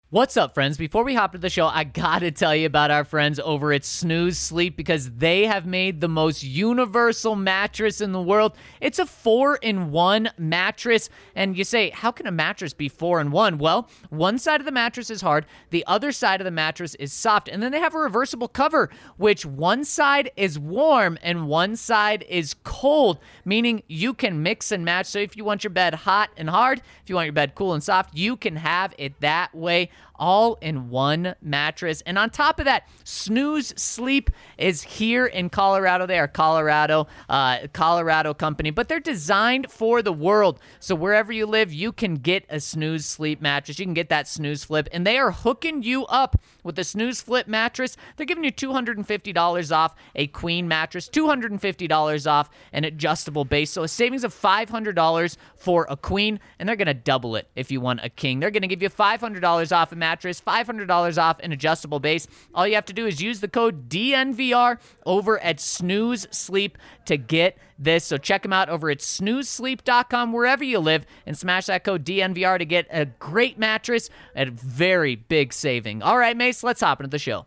What's up, friends? Before we hop to the show, I gotta tell you about our friends over at Snooze Sleep because they have made the most universal mattress in the world. It's a 4-in-1 mattress, and you say, how can a mattress be 4-in-1? Well, one side of the mattress is hard, the other side of the mattress is soft, and then they have a reversible cover, which one side is warm and one side is cold, meaning you can mix and match. So if you want your bed hot and hard, if you want your bed cool and soft, you can have it that way. All in one mattress. And on top of that, Snooze Sleep is here in Colorado. They are Colorado company, but they're designed for the world. So wherever you live, you can get a Snooze Sleep mattress. You can get that Snooze Flip, and they are hooking you up with the Snooze Flip mattress. They're giving you $250 off a queen mattress, $250 off an adjustable base. So a savings of $500 for a queen, and they're going to double it if you want a king. They're going to give you $500 off a mattress, $500 off an adjustable base. All you have to do is use the code DNVR over at Snooze Sleep to get this. So check them out over at snoozesleep.com wherever you live and smash that code DNVR to get a great mattress at a very big saving. All right, Mace, let's hop into the show.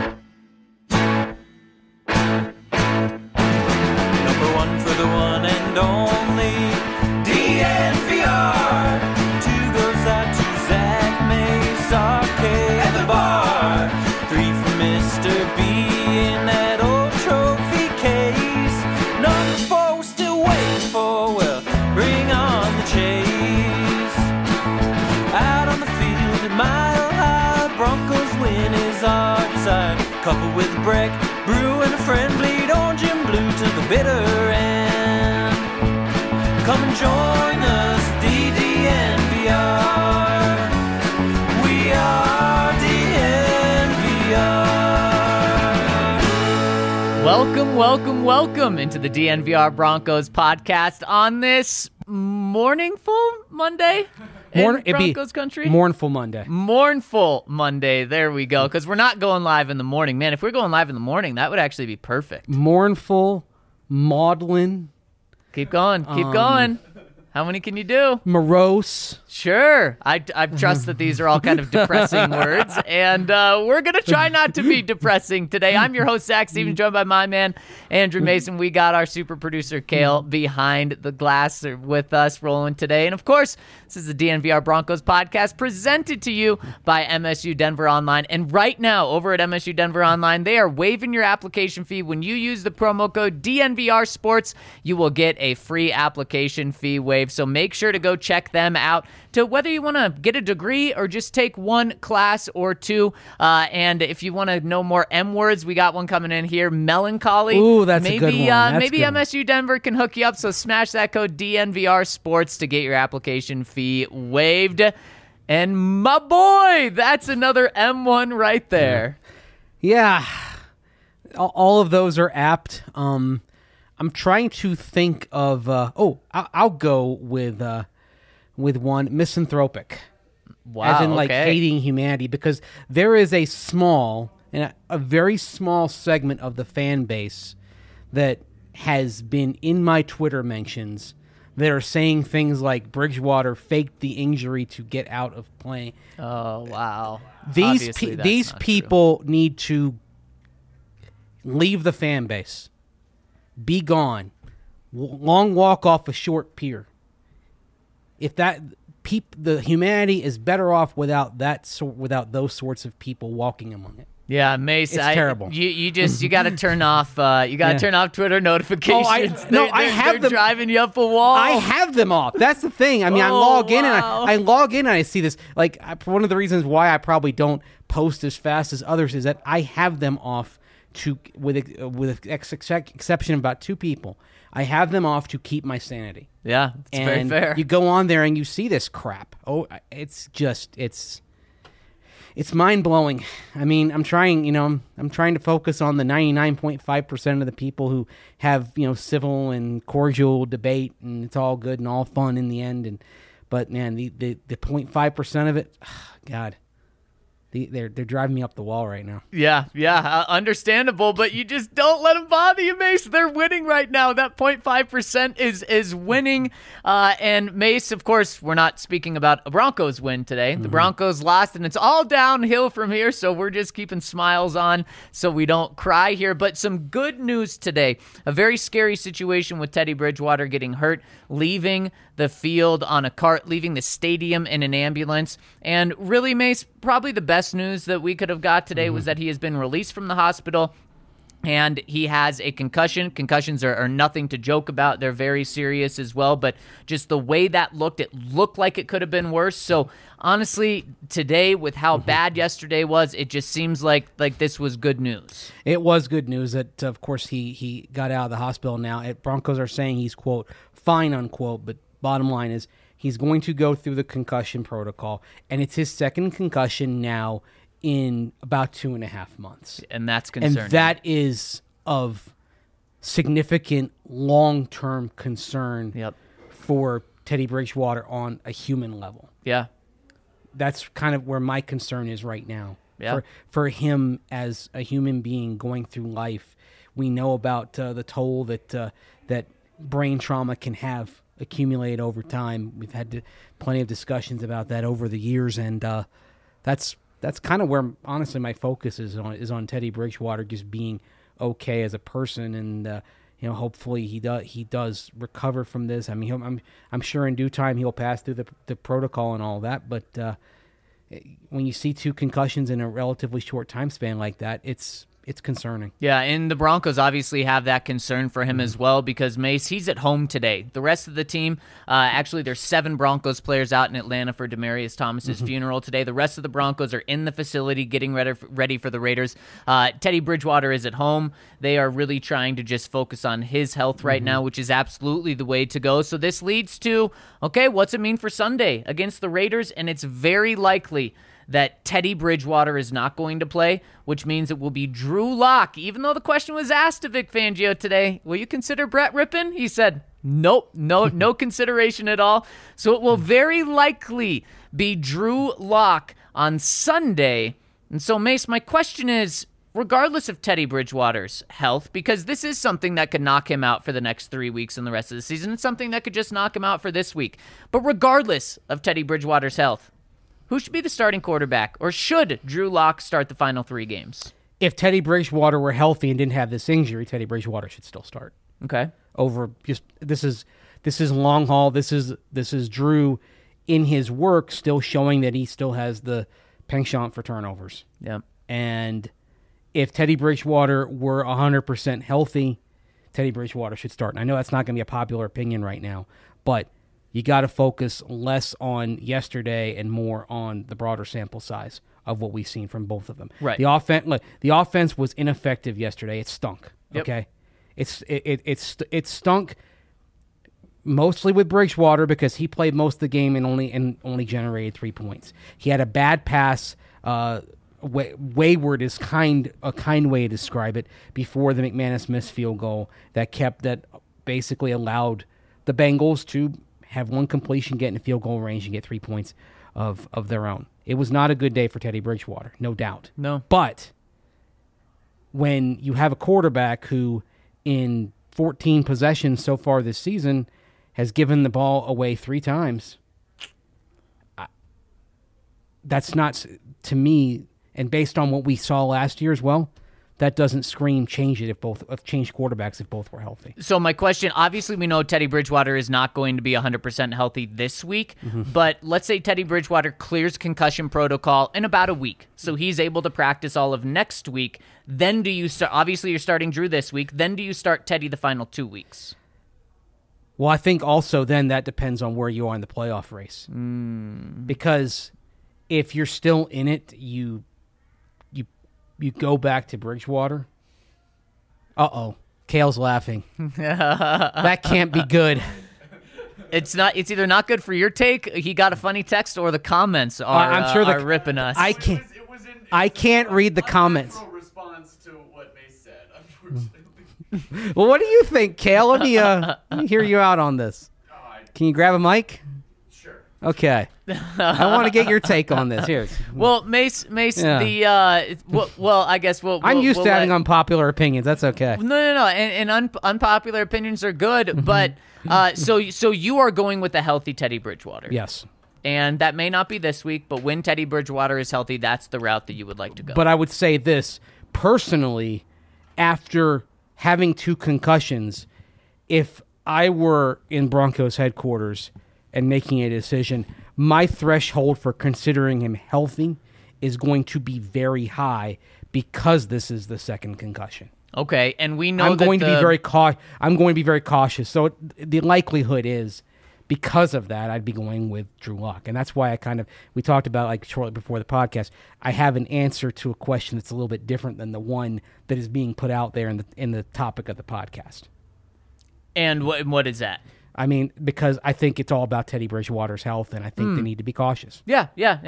Number one for the one and only DNVR. Two goes out to Zach Mace, Arcade, and the bar. Three for Mr. B in that old trophy case. Number four we're still waiting for, well, bring on the chase. Out on the field at Mile High, Broncos win is our desire. Couple with Breck, Brew and a friend, bleed orange and blue to the bitter end. Come and join us, DNVR. We are DNVR. Welcome into the DNVR Broncos podcast on this mournful Monday in Broncos country. Mournful Monday. Mournful Monday. There we go. Because we're not going live in the morning. Man, if we're going live in the morning, that would actually be perfect. Mournful, maudlin. Keep going. Keep going. How many can you do? Morose. Sure. I trust that these are all kind of depressing words, and we're going to try not to be depressing today. I'm your host, Zach Stevens, joined by my man, Andrew Mason. We got our super producer, Kale, behind the glass with us rolling today. And, of course, this is the DNVR Broncos podcast presented to you by MSU Denver Online. And right now, over at MSU Denver Online, they are waiving your application fee. When you use the promo code DNVR Sports, you will get a free application fee waiver. So make sure to go check them out to whether you want to get a degree or just take one class or two. And if you want to know more M words, we got one coming in here, melancholy. Ooh, that's a good one. Maybe MSU Denver can hook you up. So smash that code DNVR Sports to get your application fee waived. And my boy, that's another M1 right there. Yeah. All of those are apt. I'm trying to think of. I'll go with one, misanthropic. Wow, as in like hating humanity, because there is a very small segment of the fan base that has been in my Twitter mentions that are saying things like Bridgewater faked the injury to get out of playing. Oh wow! These people need to leave the fan base. Be gone. Long walk off a short pier. If the humanity is better off without those sorts of people walking among it. Yeah, Mace, it's terrible. You got to turn off. Turn off Twitter notifications. They're driving you up a wall. I have them off. That's the thing. I mean, I log in and I see this. Like, one of the reasons why I probably don't post as fast as others is that I have them off with exception of about two people. I have them off to keep my sanity. Yeah, it's very fair. You go on there and you see this crap. Oh, it's mind-blowing. I mean, I'm trying to focus on the 99.5% of the people who have, civil and cordial debate, and it's all good and all fun in the end. But man, the 0.5% of it, God, They're driving me up the wall right now. Yeah, understandable, but you just don't let them bother you, Mace. They're winning right now. That 0.5% is winning. And Mace, of course, we're not speaking about a Broncos win today. The Broncos lost, and it's all downhill from here, so we're just keeping smiles on so we don't cry here. But some good news today. A very scary situation with Teddy Bridgewater getting hurt, leaving the field on a cart, leaving the stadium in an ambulance. And really, Mace, probably the best news that we could have got today was that he has been released from the hospital and he has a concussion. Concussions are nothing to joke about. They're very serious as well, but just the way that looked, it looked like it could have been worse. So honestly, today, with how bad yesterday was, it just seems like this was good news. It was good news that, of course, he got out of the hospital now. Broncos are saying he's, quote, fine, unquote, but bottom line is he's going to go through the concussion protocol, and it's his second concussion now in about 2.5 months. And that's concerning. And that is of significant long-term concern for Teddy Bridgewater on a human level. Yeah. That's kind of where my concern is right now. Yeah. For him as a human being going through life. We know about the toll that brain trauma can have accumulate over time. We've had plenty of discussions about that over the years, and that's kind of where, honestly, my focus is on Teddy Bridgewater just being okay as a person, and hopefully he does recover from this. I mean, I'm sure in due time he'll pass through the protocol and all that, but when you see 2 concussions in a relatively short time span like that, it's concerning. Yeah, and the Broncos obviously have that concern for him as well because, Mace, he's at home today. The rest of the team, actually there's 7 Broncos players out in Atlanta for Demaryius Thomas's funeral today. The rest of the Broncos are in the facility getting ready for the Raiders. Teddy Bridgewater is at home. They are really trying to just focus on his health right now, which is absolutely the way to go. So this leads to, okay, what's it mean for Sunday against the Raiders? And it's very likely that Teddy Bridgewater is not going to play, which means it will be Drew Lock. Even though the question was asked to Vic Fangio today, will you consider Brett Rippon? He said, nope, no consideration at all. So it will very likely be Drew Lock on Sunday. And so, Mace, my question is, regardless of Teddy Bridgewater's health, because this is something that could knock him out for the next 3 weeks and the rest of the season, it's something that could just knock him out for this week. But regardless of Teddy Bridgewater's health, who should be the starting quarterback, or should Drew Lock start the final 3 games? If Teddy Bridgewater were healthy and didn't have this injury, Teddy Bridgewater should still start. Okay. Over just this is long haul. This is Drew in his work still showing that he still has the penchant for turnovers. Yeah. And if Teddy Bridgewater were 100% healthy, Teddy Bridgewater should start. And I know that's not going to be a popular opinion right now, but you got to focus less on yesterday and more on the broader sample size of what we've seen from both of them. Right. The offense was ineffective yesterday. It stunk. Yep. Okay. It stunk mostly with Bridgewater because he played most of the game and only generated 3 points. He had a bad pass. Wayward is a kind way to describe it before the McManus missed field goal that basically allowed the Bengals to have one completion, get in the field goal range, and get 3 points of their own. It was not a good day for Teddy Bridgewater, no doubt. No. But when you have a quarterback who, in 14 possessions so far this season, has given the ball away 3 times, that's not, to me, and based on what we saw last year as well, that doesn't scream change quarterbacks if both were healthy. So my question, obviously we know Teddy Bridgewater is not going to be 100% healthy this week, but let's say Teddy Bridgewater clears concussion protocol in about a week, so he's able to practice all of next week. Then do you start, obviously you're starting Drew this week, then do you start Teddy the final 2 weeks? Well, I think also then that depends on where you are in the playoff race. Because if you're still in it, you go back to Bridgewater. Uh-oh. Kale's laughing. That can't be good. It's not. It's either not good for your take, he got a funny text, or the comments are ripping us. I can't read the comments. Response to what they said, unfortunately. Well, what do you think, Kale? Let me hear you out on this. Can you grab a mic? Sure. Okay. I want to get your take on this. Here. Well, Mace, Yeah. well, I guess I'm used to having unpopular opinions. That's okay. No. And unpopular opinions are good, but so you are going with a healthy Teddy Bridgewater. Yes. And that may not be this week, but when Teddy Bridgewater is healthy, that's the route that you would like to go. But I would say this, personally, after having 2 concussions, if I were in Broncos headquarters and making a decision, my threshold for considering him healthy is going to be very high because this is the second concussion. Okay, and we know I'm going to be very cautious. So the likelihood is, because of that, I'd be going with Drew Lock. And that's why we talked about, like, shortly before the podcast, I have an answer to a question that's a little bit different than the one that is being put out there in the topic of the podcast. And what is that? I mean, because I think it's all about Teddy Bridgewater's health, and I think they need to be cautious. Yeah,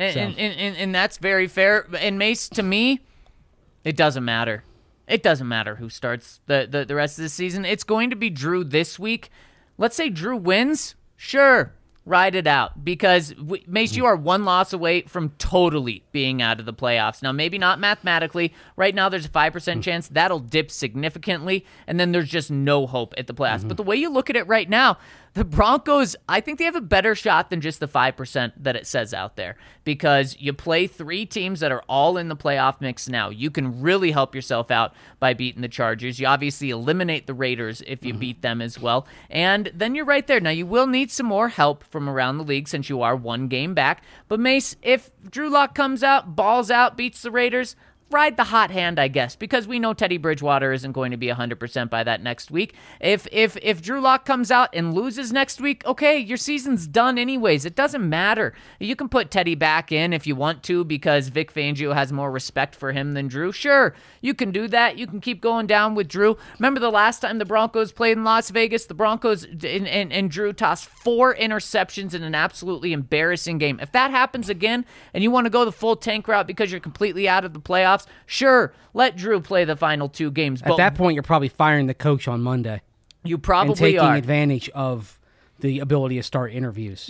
and that's very fair. And Mace, to me, it doesn't matter. It doesn't matter who starts the rest of the season. It's going to be Drew this week. Let's say Drew wins. Sure, ride it out. Because, Mace, you are 1 loss away from totally being out of the playoffs. Now, maybe not mathematically. Right now, there's a 5% chance that'll dip significantly, and then there's just no hope at the playoffs. But the way you look at it right now, the Broncos, I think they have a better shot than just the 5% that it says out there, because you play 3 teams that are all in the playoff mix now. You can really help yourself out by beating the Chargers. You obviously eliminate the Raiders if you beat them as well, and then you're right there. Now, you will need some more help from around the league since you are 1 game back, but Mace, if Drew Lock comes out, balls out, beats the Raiders, ride the hot hand, I guess, because we know Teddy Bridgewater isn't going to be 100% by that next week. If Drew Lock comes out and loses next week, okay, your season's done anyways. It doesn't matter. You can put Teddy back in if you want to because Vic Fangio has more respect for him than Drew. Sure, you can do that. You can keep going down with Drew. Remember the last time the Broncos played in Las Vegas? The Broncos and Drew tossed 4 interceptions in an absolutely embarrassing game. If that happens again and you want to go the full tank route because you're completely out of the playoffs, sure, let Drew play the final 2 games. At that point, you're probably firing the coach on Monday. You probably and taking are. advantage of the ability to start interviews.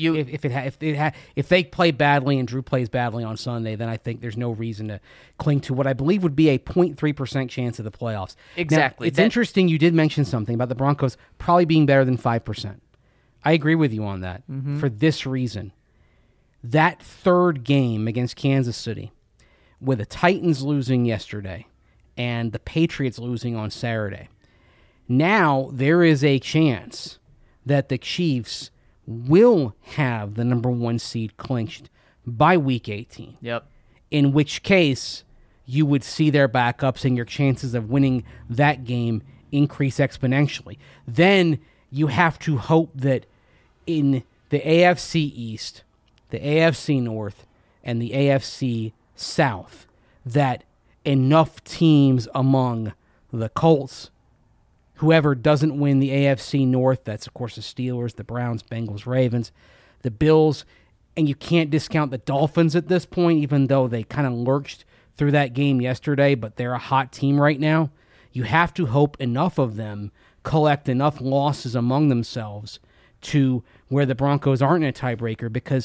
If they play badly and Drew plays badly on Sunday, then I think there's no reason to cling to what I believe would be a 0.3% chance of the playoffs. Exactly. Now, it's interesting you did mention something about the Broncos probably being better than 5%. I agree with you on that for this reason. That 3rd game against Kansas City, with the Titans losing yesterday and the Patriots losing on Saturday, now there is a chance that the Chiefs will have the number 1 seed clinched by Week 18. Yep. In which case, you would see their backups and your chances of winning that game increase exponentially. Then you have to hope that in the AFC East, the AFC North, and the AFC South, that enough teams among the Colts, whoever doesn't win the AFC North, that's of course the Steelers, the Browns, Bengals, Ravens, the Bills, and you can't discount the Dolphins at this point, even though they kind of lurched through that game yesterday, but they're a hot team right now. You have to hope enough of them collect enough losses among themselves to where the Broncos aren't in a tiebreaker, because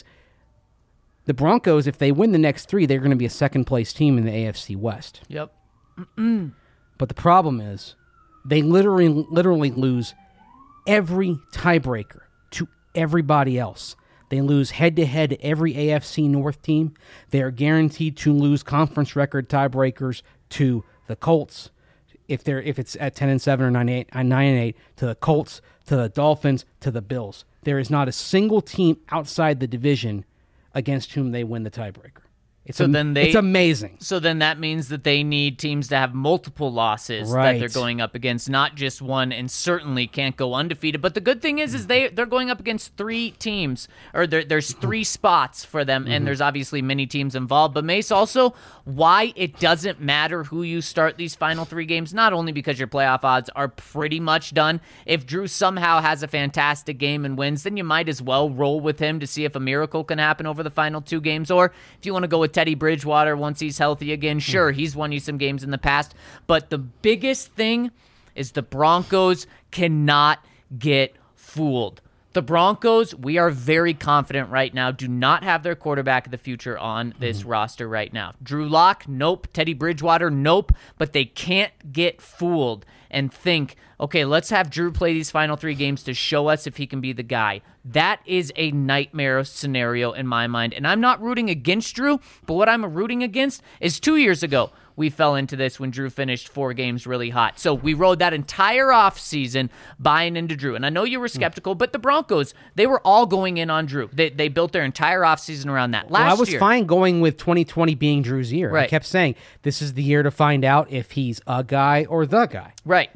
the Broncos, if they win the next 3, they're going to be a second-place team in the AFC West. Yep. But the problem is they literally lose every tiebreaker to everybody else. They lose head-to-head to every AFC North team. They are guaranteed to lose conference record tiebreakers to the Colts, if it's at 10-7 or 9-8, to the Colts, to the Dolphins, to the Bills. There is not a single team outside the division against whom they win the tiebreaker. It's amazing. So then that means that they need teams to have multiple losses that they're going up against, not just one, and certainly can't go undefeated. But the good thing is they're going up against 3 teams, or there's 3 spots for them, and there's obviously many teams involved. But Mace, also, why it doesn't matter who you start these final 3 games, not only because your playoff odds are pretty much done. If Drew somehow has a fantastic game and wins, then you might as well roll with him to see if a miracle can happen over the final 2 games. Or if you want to go with Teddy Bridgewater once he's healthy again, sure, he's won you some games in the past. But the biggest thing is the Broncos cannot get fooled. The Broncos, we are very confident right now, do not have their quarterback of the future on this roster right now. Drew Lock, nope. Teddy Bridgewater, nope. But they can't get fooled and think, okay, let's have Drew play these final 3 games to show us if he can be the guy. That is a nightmare scenario in my mind. And I'm not rooting against Drew, but what I'm rooting against is 2 years ago, we fell into this when Drew finished 4 games really hot. So we rode that entire offseason buying into Drew. And I know you were skeptical, but the Broncos, they were all going in on Drew. They built their entire offseason around that. I was fine going with 2020 being Drew's year. Right. I kept saying, this is the year to find out if he's a guy or the guy. Right.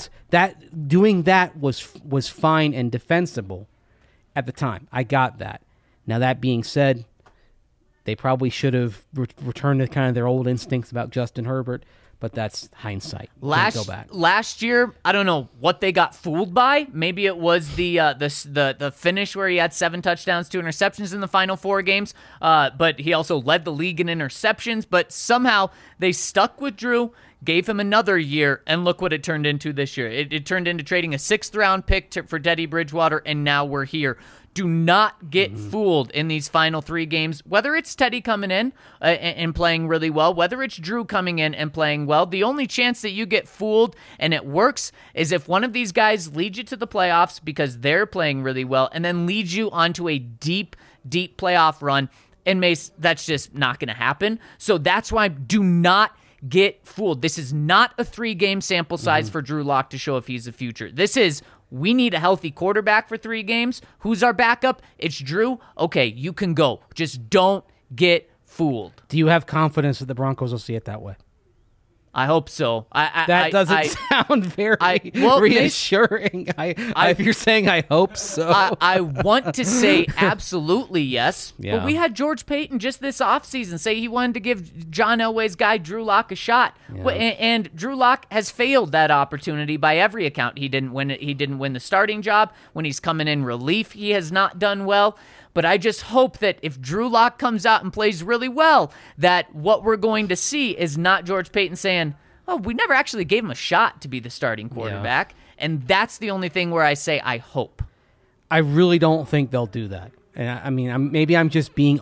Doing that was fine and defensible at the time. I got that. Now, that being said, they probably should have returned to kind of their old instincts about Justin Herbert, but that's hindsight. Can't go back. Last year, I don't know what they got fooled by. Maybe it was the finish where he had 7 touchdowns, 2 interceptions in the final 4 games, but he also led the league in interceptions. But somehow they stuck with Drew, gave him another year, and look what it turned into this year. It turned into trading a 6th-round pick for Teddy Bridgewater, and now we're here. Do not get fooled in these final 3 games, whether it's Teddy coming in and playing really well, whether it's Drew coming in and playing well. The only chance that you get fooled and it works is if one of these guys leads you to the playoffs because they're playing really well and then leads you onto a deep, deep playoff run. And Mace, that's just not going to happen. So that's why do not get fooled. This is not a 3-game sample size for Drew Lock to show if he's the future. This is, we need a healthy quarterback for 3 games. Who's our backup? It's Drew. Okay, you can go. Just don't get fooled. Do you have confidence that the Broncos will see it that way? I hope so. That doesn't sound very reassuring. If you're saying I hope so. I want to say absolutely yes, Yeah. but we had George Payton just this offseason say he wanted to give John Elway's guy Drew Lock a shot. Yeah. And Drew Lock has failed that opportunity by every account. He didn't win it. He didn't win the starting job. When he's coming in relief, he has not done well. But I just hope that if Drew Lock comes out and plays really well, that what we're going to see is not George Payton saying, oh, we never actually gave him a shot to be the starting quarterback. Yeah. And that's the only thing where I say I hope. I really don't think they'll do that. And I mean, maybe I'm just being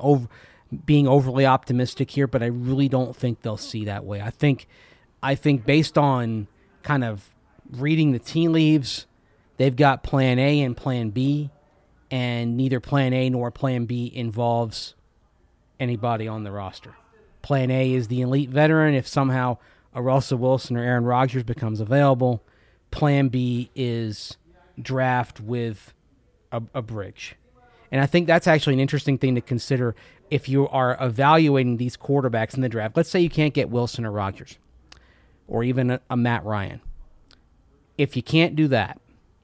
overly optimistic here, but I really don't think they'll see that way. I think based on kind of reading the tea leaves, they've got plan A and plan B. And neither plan A nor plan B involves anybody on the roster. Plan A is the elite veteran if somehow a Russell Wilson or Aaron Rodgers becomes available. Plan B is draft with a bridge. And I think that's actually an interesting thing to consider if you are evaluating these quarterbacks in the draft. Let's say you can't get Wilson or Rodgers or even a Matt Ryan. If you can't do that,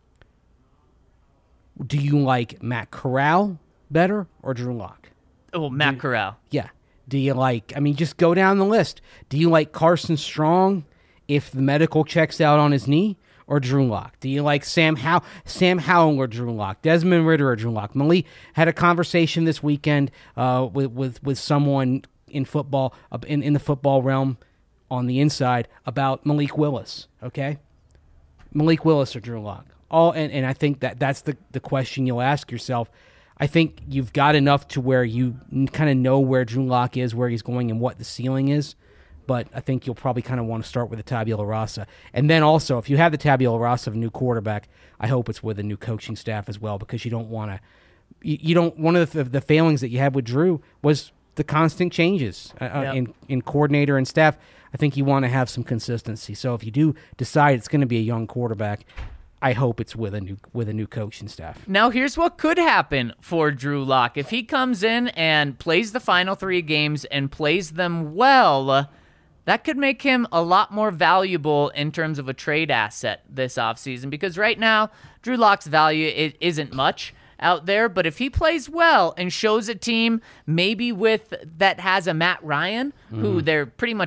do you like Matt Corral better or Drew Lock? Oh, Matt Corral. Yeah. Do you like, just go down the list. Do you like Carson Strong if the medical checks out on his knee or Drew Lock? Do you like Sam Howell or Drew Lock? Desmond Ridder or Drew Lock? Malik had a conversation this weekend with someone in football, in the football realm on the inside about Malik Willis, okay? Malik Willis or Drew Lock? And I think that's the question you'll ask yourself. I think you've got enough to where you kind of know where Drew Lock is, where he's going, and what the ceiling is. But I think you'll probably kind of want to start with the tabula rasa. And then also, if you have the tabula rasa of a new quarterback, I hope it's with a new coaching staff as well, because you don't want to. You don't. One of the failings that you had with Drew was the constant changes in coordinator and staff. I think you want to have some consistency. So if you do decide it's going to be a young quarterback, I hope it's with a new coaching staff. Now, here's what could happen for Drew Lock. If he comes in and plays the final 3 games and plays them well, that could make him a lot more valuable in terms of a trade asset this offseason, because right now, Drew Lock's value isn't much out there, but if he plays well and shows a team maybe that has a Matt Ryan, who they're pretty much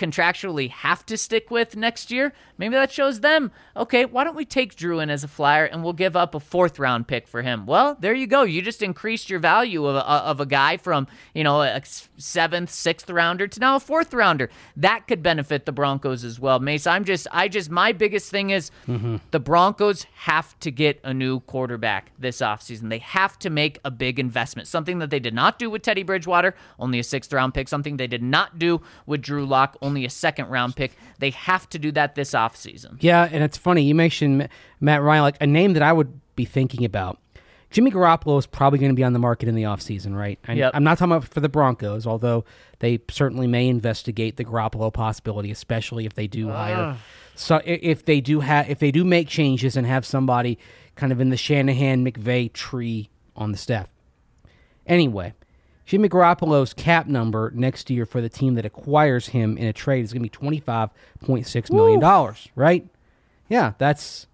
contractually have to stick with next year, maybe that shows them, okay, why don't we take Drew in as a flyer and we'll give up a 4th-round pick for him? Well, there you go. You just increased your value of a guy from, a 7th, 6th rounder to now a 4th rounder. That could benefit the Broncos as well. Mace, my biggest thing is the Broncos have to get a new quarterback this offseason. They have to make a big investment, something that they did not do with Teddy Bridgewater, only a 6th-round pick, something they did not do with Drew Lock, only a 2nd-round pick. They have to do that this offseason. Yeah, and it's funny. You mentioned Matt Ryan, like a name that I would be thinking about. Jimmy Garoppolo is probably going to be on the market in the offseason, right? Yep. I'm not talking about for the Broncos, although they certainly may investigate the Garoppolo possibility, especially if they do hire. So if they do make changes and have somebody kind of in the Shanahan-McVay tree on the staff. Anyway, Jimmy Garoppolo's cap number next year for the team that acquires him in a trade is going to be $25.6 million, right? Yeah, that's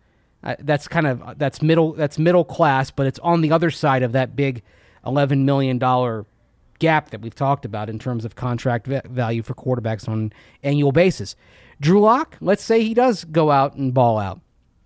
middle class, but it's on the other side of that big $11 million gap that we've talked about in terms of contract value for quarterbacks on an annual basis. Drew Lock, let's say he does go out and ball out.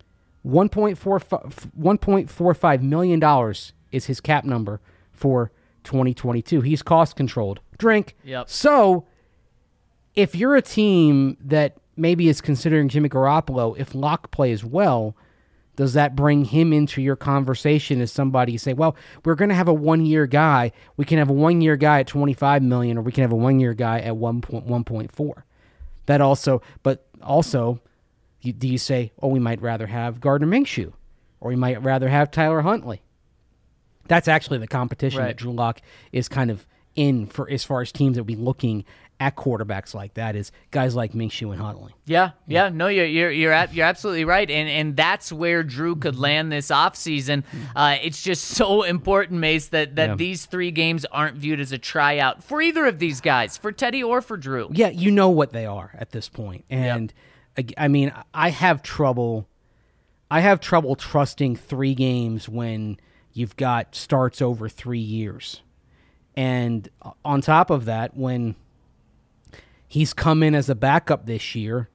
$1.45 million is his cap number for 2022. He's cost controlled. Yep. So if you're a team that maybe is considering Jimmy Garoppolo, if Lock plays well, does that bring him into your conversation as somebody you say, well, we're going to have a 1-year guy. We can have a 1-year guy at $25 million, or we can have a 1-year guy at 1.4. That also, but also, do you say, oh, we might rather have Gardner Minshew, or we might rather have Tyler Huntley? That's actually the competition that Drew Lock is kind of in for as far as teams that will be looking at quarterbacks like that, is guys like Minshew and Huntley. Yeah. No, you're absolutely right, and that's where Drew could land this offseason. It's just so important, Mace, that these 3 games aren't viewed as a tryout for either of these guys, for Teddy or for Drew. Yeah, you know what they are at this point, and I mean, I have trouble trusting 3 games when you've got starts over 3 years, and on top of that, when he's come in as a backup this year,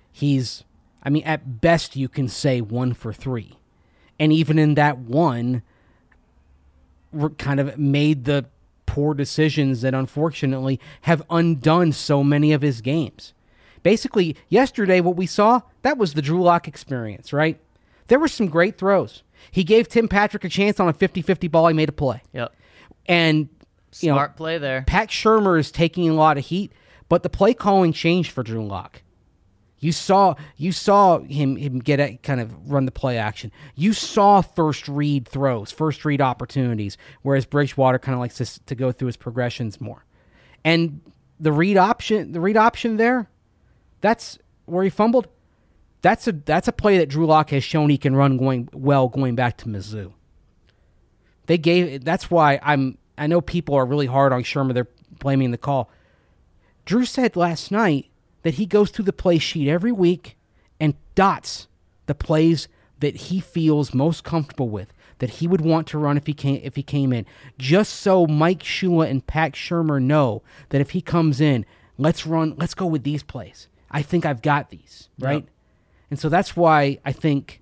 at best you can say 1 for 3. And even in that 1, kind of made the poor decisions that unfortunately have undone so many of his games. Basically, yesterday what we saw, that was the Drew Lock experience, right? There were some great throws. He gave Tim Patrick a chance on a 50-50 ball. He made a play. Yep. And Smart play there. Pat Shurmur is taking a lot of heat, but the play calling changed for Drew Lock. You saw him get kind of run the play action. You saw first read throws, first read opportunities, whereas Bridgewater kind of likes to go through his progressions more. And the read option there, that's where he fumbled. That's a play that Drew Lock has shown he can run going back to Mizzou. That's why I know people are really hard on Shurmur. They're blaming the call. Drew said last night that he goes through the play sheet every week and dots the plays that he feels most comfortable with, that he would want to run if he came in, just so Mike Shula and Pat Shurmur know that if he comes in, let's go with these plays. I think I've got these, right? Yep. And so that's why I think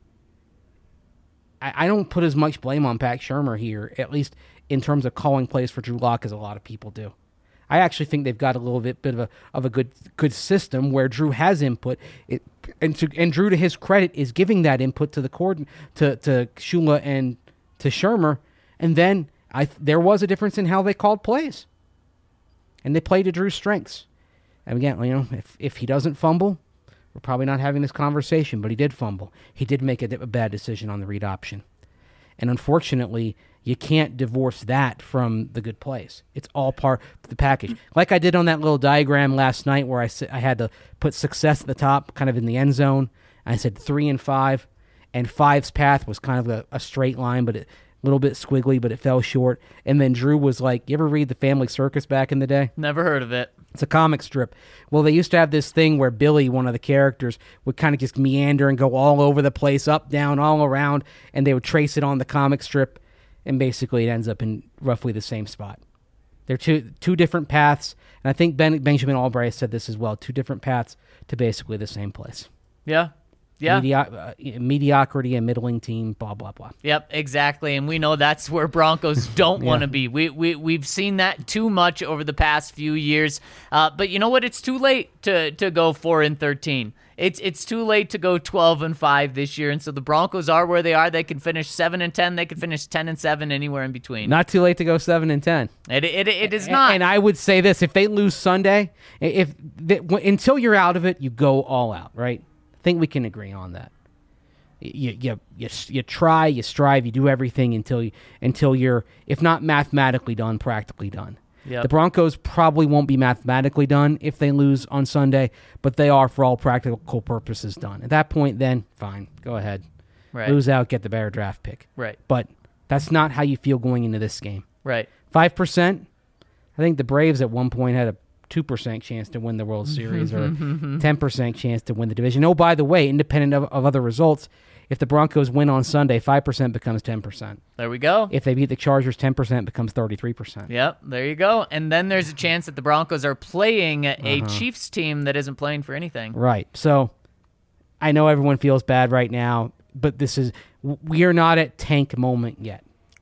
I don't put as much blame on Pat Shurmur here, at least in terms of calling plays for Drew Lock, as a lot of people do. I actually think they've got a little bit of a good system where Drew has input, and Drew, to his credit, is giving that input to the to Shula and to Shurmur, and then there was a difference in how they called plays, and they played to Drew's strengths. And again, if he doesn't fumble, we're probably not having this conversation, but he did fumble. He did make a bad decision on the read option, and unfortunately, you can't divorce that from the good plays. It's all part of the package. Like I did on that little diagram last night where I had to put success at the top, kind of in the end zone. I said 3 and 5, and 5's path was kind of a straight line, but a little bit squiggly, but it fell short. And then Drew was like, you ever read The Family Circus back in the day? Never heard of it. It's a comic strip. Well, they used to have this thing where Billy, one of the characters, would kind of just meander and go all over the place, up, down, all around, and they would trace it on the comic strip. And basically it ends up in roughly the same spot. They're two different paths, and I think Benjamin Albright said this as well. 2 different paths to basically the same place. Yeah. Yeah. Mediocrity, a middling team, blah, blah, blah. Yep, exactly. And we know that's where Broncos don't want to be. We've seen that too much over the past few years. But you know what? It's too late to go 4-13. It's too late to go 12-5 this year. And so the Broncos are where they are. They can finish 7-10. They can finish 10-7, anywhere in between. Not too late to go 7-10. It is not. And I would say this: if they lose Sunday, until you're out of it, you go all out, right? I think we can agree on that. You try, you strive, you do everything until you're, if not mathematically done, practically done. Yep. The Broncos probably won't be mathematically done if they lose on Sunday, but they are, for all practical purposes, done. At that point, then fine, go ahead, Right. lose out, get the better draft pick. Right. But that's not how you feel going into this game. Right. 5%. I think the Braves at one point had a 2% chance to win the World Series or 10% chance to win the division. Oh, by the way, independent of other results, if the Broncos win on Sunday, 5% becomes 10%. There we go. If they beat the Chargers, 10% becomes 33%. Yep, there you go. And then there's a chance that the Broncos are playing a Chiefs team that isn't playing for anything. Right. So I know everyone feels bad right now, but we are not at tank moment yet.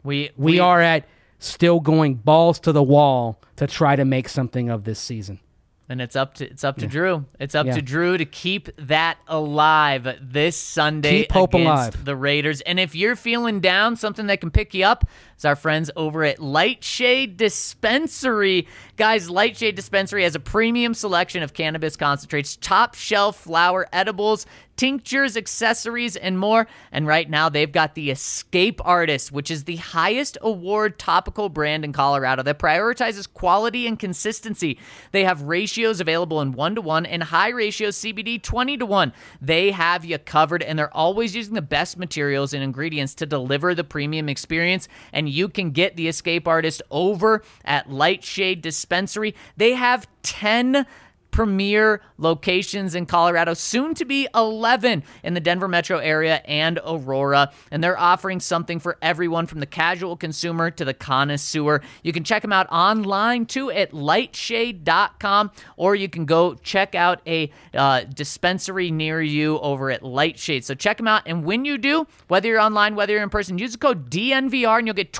We are at still going balls to the wall to try to make something of this season. And it's up to Drew. It's up to Drew to keep that alive this Sunday Keep hope against alive. the Raiders. And if you're feeling down, something that can pick you up is our friends over at Lightshade Dispensary. Guys, Lightshade Dispensary has a premium selection of cannabis concentrates, top shelf flower edibles, tinctures, accessories, and more. And right now, they've got the Escape Artist, which is the highest award topical brand in Colorado that prioritizes quality and consistency. They have ratios available in 1-to-1 and high ratio CBD 20-to-1. They have you covered, and they're always using the best materials and ingredients to deliver the premium experience. And you can get the Escape Artist over at Lightshade Dispensary. They have 10 premier locations in Colorado, soon to be 11 in the Denver metro area and Aurora. And they're offering something for everyone from the casual consumer to the connoisseur. You can check them out online too at lightshade.com, or you can go check out a dispensary near you over at Lightshade. So check them out. And when you do, whether you're online, whether you're in person, use the code DNVR and you'll get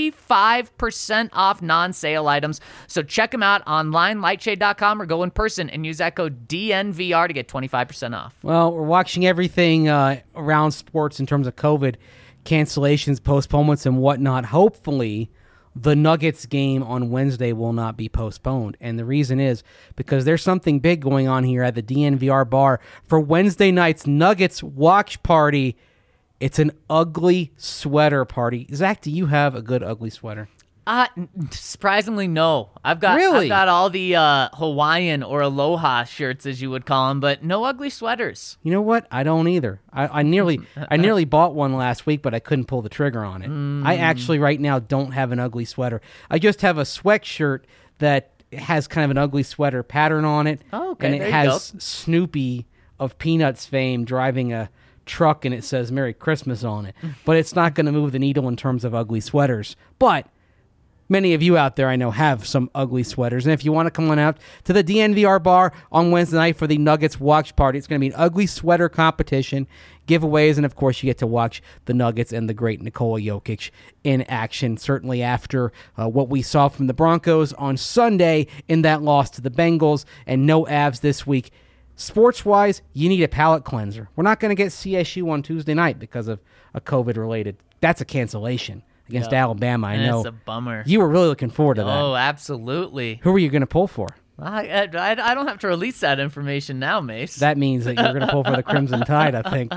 25% off non-sale items. So check them out online, lightshade.com, or go in person and use that code DNVR to get 25% off. Well, we're watching everything around sports in terms of COVID cancellations, postponements, and whatnot. Hopefully, the Nuggets game on Wednesday will not be postponed. And the reason is because there's something big going on here at the DNVR bar for Wednesday night's Nuggets watch party. It's an ugly sweater party. Zach, do you have a good ugly sweater? Surprisingly, no. I've got all the Hawaiian or Aloha shirts, as you would call them, but no ugly sweaters. You know what? I don't either. I nearly bought one last week, but I couldn't pull the trigger on it. I actually right now don't have an ugly sweater. I just have a sweatshirt that has kind of an ugly sweater pattern on it. Oh, okay. And it has Snoopy of Peanuts fame driving a truck, and it says Merry Christmas on it. But it's not going to move the needle in terms of ugly sweaters. But many of you out there, I know, have some ugly sweaters. And if you want to come on out to the DNVR bar on Wednesday night for the Nuggets watch party, it's going to be an ugly sweater competition, giveaways, and, of course, you get to watch the Nuggets and the great Nikola Jokic in action, certainly after what we saw from the Broncos on Sunday in that loss to the Bengals, and no Avs this week. Sports-wise, you need a palate cleanser. We're not going to get CSU on Tuesday night because of a COVID-related. That's a cancellation against Alabama. I know. It's a bummer. You were really looking forward to that. Oh, absolutely. Who were you going to pull for? I don't have to release that information now, Mace. That means that you're going to pull for the Crimson Tide, I think.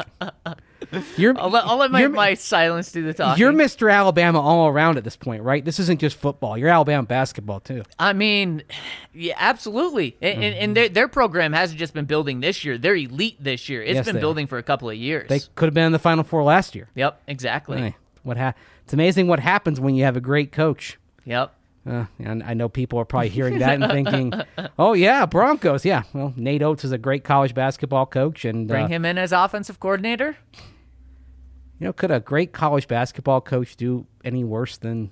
I'll let my silence do the talking. You're Mr. Alabama all around at this point, right? This isn't just football. You're Alabama basketball, too. I mean, yeah, absolutely. And their program hasn't just been building this year. They're elite this year. It's been building for a couple of years. They could have been in the Final Four last year. Yep, exactly. Hey, it's amazing what happens when you have a great coach. Yep. And I know people are probably hearing that and thinking, oh, yeah, Broncos. Yeah, well, Nate Oates is a great college basketball coach. And bring him in as offensive coordinator? could a great college basketball coach do any worse than...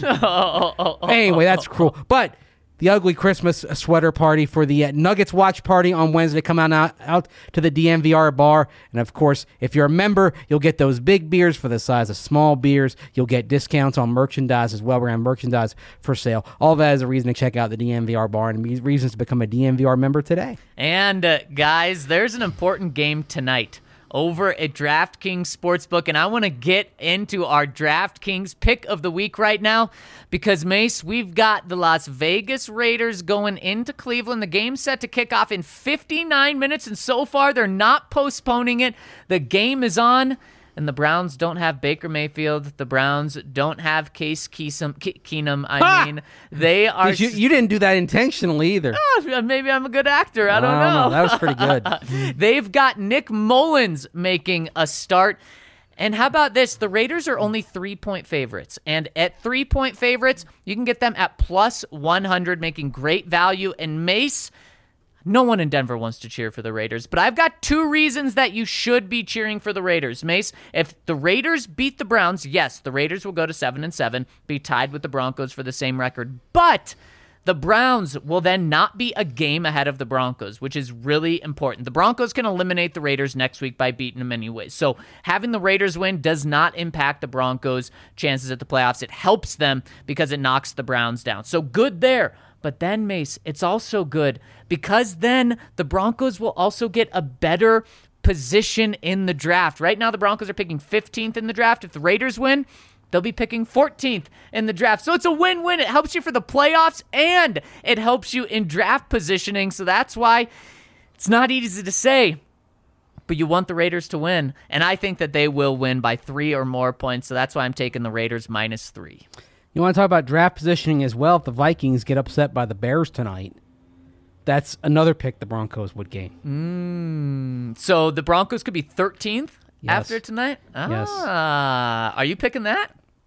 Anyway, that's cruel. But the ugly Christmas sweater party for the Nuggets watch party on Wednesday. Come out to the DNVR bar. And, of course, if you're a member, you'll get those big beers for the size of small beers. You'll get discounts on merchandise as well. We're going to have merchandise for sale. All that is a reason to check out the DNVR bar and reasons to become a DNVR member today. And, guys, there's an important game tonight over at DraftKings Sportsbook, and I want to get into our DraftKings pick of the week right now because, Mace, we've got the Las Vegas Raiders going into Cleveland. The game's set to kick off in 59 minutes, and so far they're not postponing it. The game is on, and the Browns don't have Baker Mayfield. The Browns don't have Case Keenum. They are... You didn't do that intentionally either. Maybe I'm a good actor. I don't know. No, that was pretty good. They've got Nick Mullins making a start. And how about this? The Raiders are only 3-point favorites. And at 3-point favorites, you can get them at plus 100, making great value. And Mace... no one in Denver wants to cheer for the Raiders, but I've got 2 reasons that you should be cheering for the Raiders. Mace, if the Raiders beat the Browns, yes, the Raiders will go to 7-7, be tied with the Broncos for the same record, but the Browns will then not be a game ahead of the Broncos, which is really important. The Broncos can eliminate the Raiders next week by beating them anyways. So having the Raiders win does not impact the Broncos' chances at the playoffs. It helps them because it knocks the Browns down. So good there. But then, Mace, it's also good because then the Broncos will also get a better position in the draft. Right now, the Broncos are picking 15th in the draft. If the Raiders win, they'll be picking 14th in the draft. So it's a win-win. It helps you for the playoffs, and it helps you in draft positioning. So that's why it's not easy to say, but you want the Raiders to win. And I think that they will win by 3 or more points. So that's why I'm taking the Raiders -3. You want to talk about draft positioning as well? If the Vikings get upset by the Bears tonight, that's another pick the Broncos would gain. So the Broncos could be 13th after tonight? Yes. Are you picking that?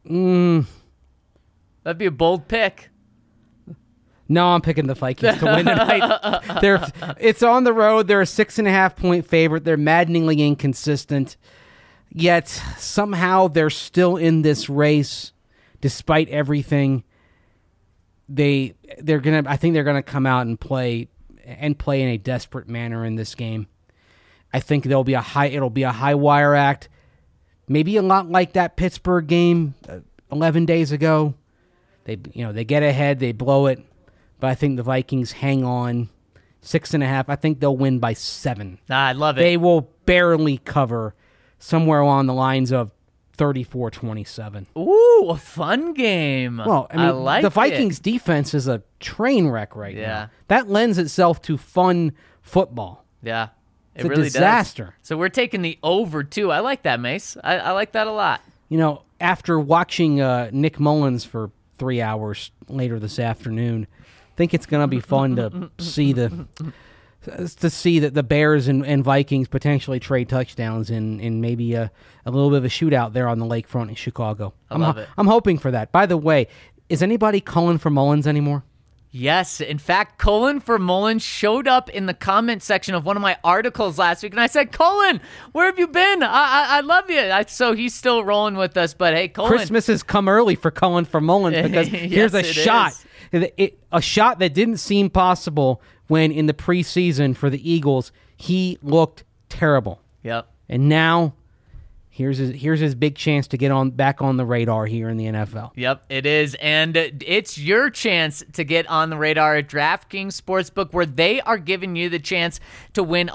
That'd be a bold pick. No, I'm picking the Vikings to win tonight. It's on the road. They're a 6.5-point favorite. They're maddeningly inconsistent. Yet somehow they're still in this race. Despite everything, I think they're gonna come out and play in a desperate manner in this game. I think it'll be a high wire act, maybe a lot like that Pittsburgh game 11 days ago. They get ahead, they blow it, but I think the Vikings hang on 6.5. I think they'll win by 7. I love it. They will barely cover, somewhere along the lines of 34-27. Ooh, a fun game. Well, I like the Vikings' defense is a train wreck right now. That lends itself to fun football. Yeah, it's really a disaster. Does. So we're taking the over, too. I like that, Mace. I like that a lot. After watching Nick Mullins for 3 hours later this afternoon, I think it's going to be fun to see that the Bears and Vikings potentially trade touchdowns in maybe a little bit of a shootout there on the lakefront in Chicago. I love it. I'm hoping for that. By the way, is anybody calling for Mullins anymore? Yes. In fact, Cullen for Mullins showed up in the comment section of one of my articles last week, and I said, Cullen, where have you been? I love you. So he's still rolling with us, but hey, Cullen. Christmas has come early for Cullen for Mullins because here's a shot. A shot that didn't seem possible when in the preseason for the Eagles, he looked terrible. Yep. And now here's his big chance to get back on the radar here in the NFL. Yep, it is. And it's your chance to get on the radar at DraftKings Sportsbook, where they are giving you the chance to win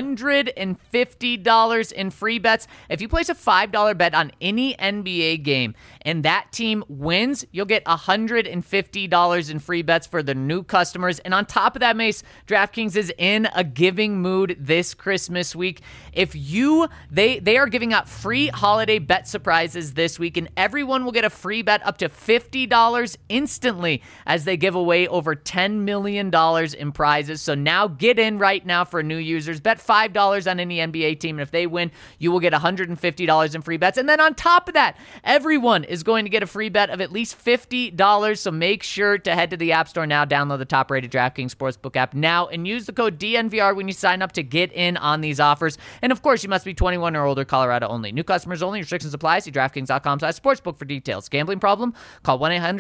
$150 in free bets. If you place a $5 bet on any NBA game and that team wins, you'll get $150 in free bets for the new customers. And on top of that, Mace, DraftKings is in a giving mood this Christmas week. They are giving out free holiday bet surprises this week, and everyone will get a free bet up to $50 instantly as they give away over $10 million in prizes. So now get in right now for new users. Bet $5 on any NBA team, and if they win, you will get $150 in free bets. And then on top of that, everyone is going to get a free bet of at least $50. So make sure to head to the App Store now, download the top-rated DraftKings Sportsbook app now, and use the code DNVR when you sign up to get in on these offers. And of course, you must be 21 or older, Colorado only. New New customers only. Restrictions apply. See DraftKings.com/sportsbook for details. Gambling problem? Call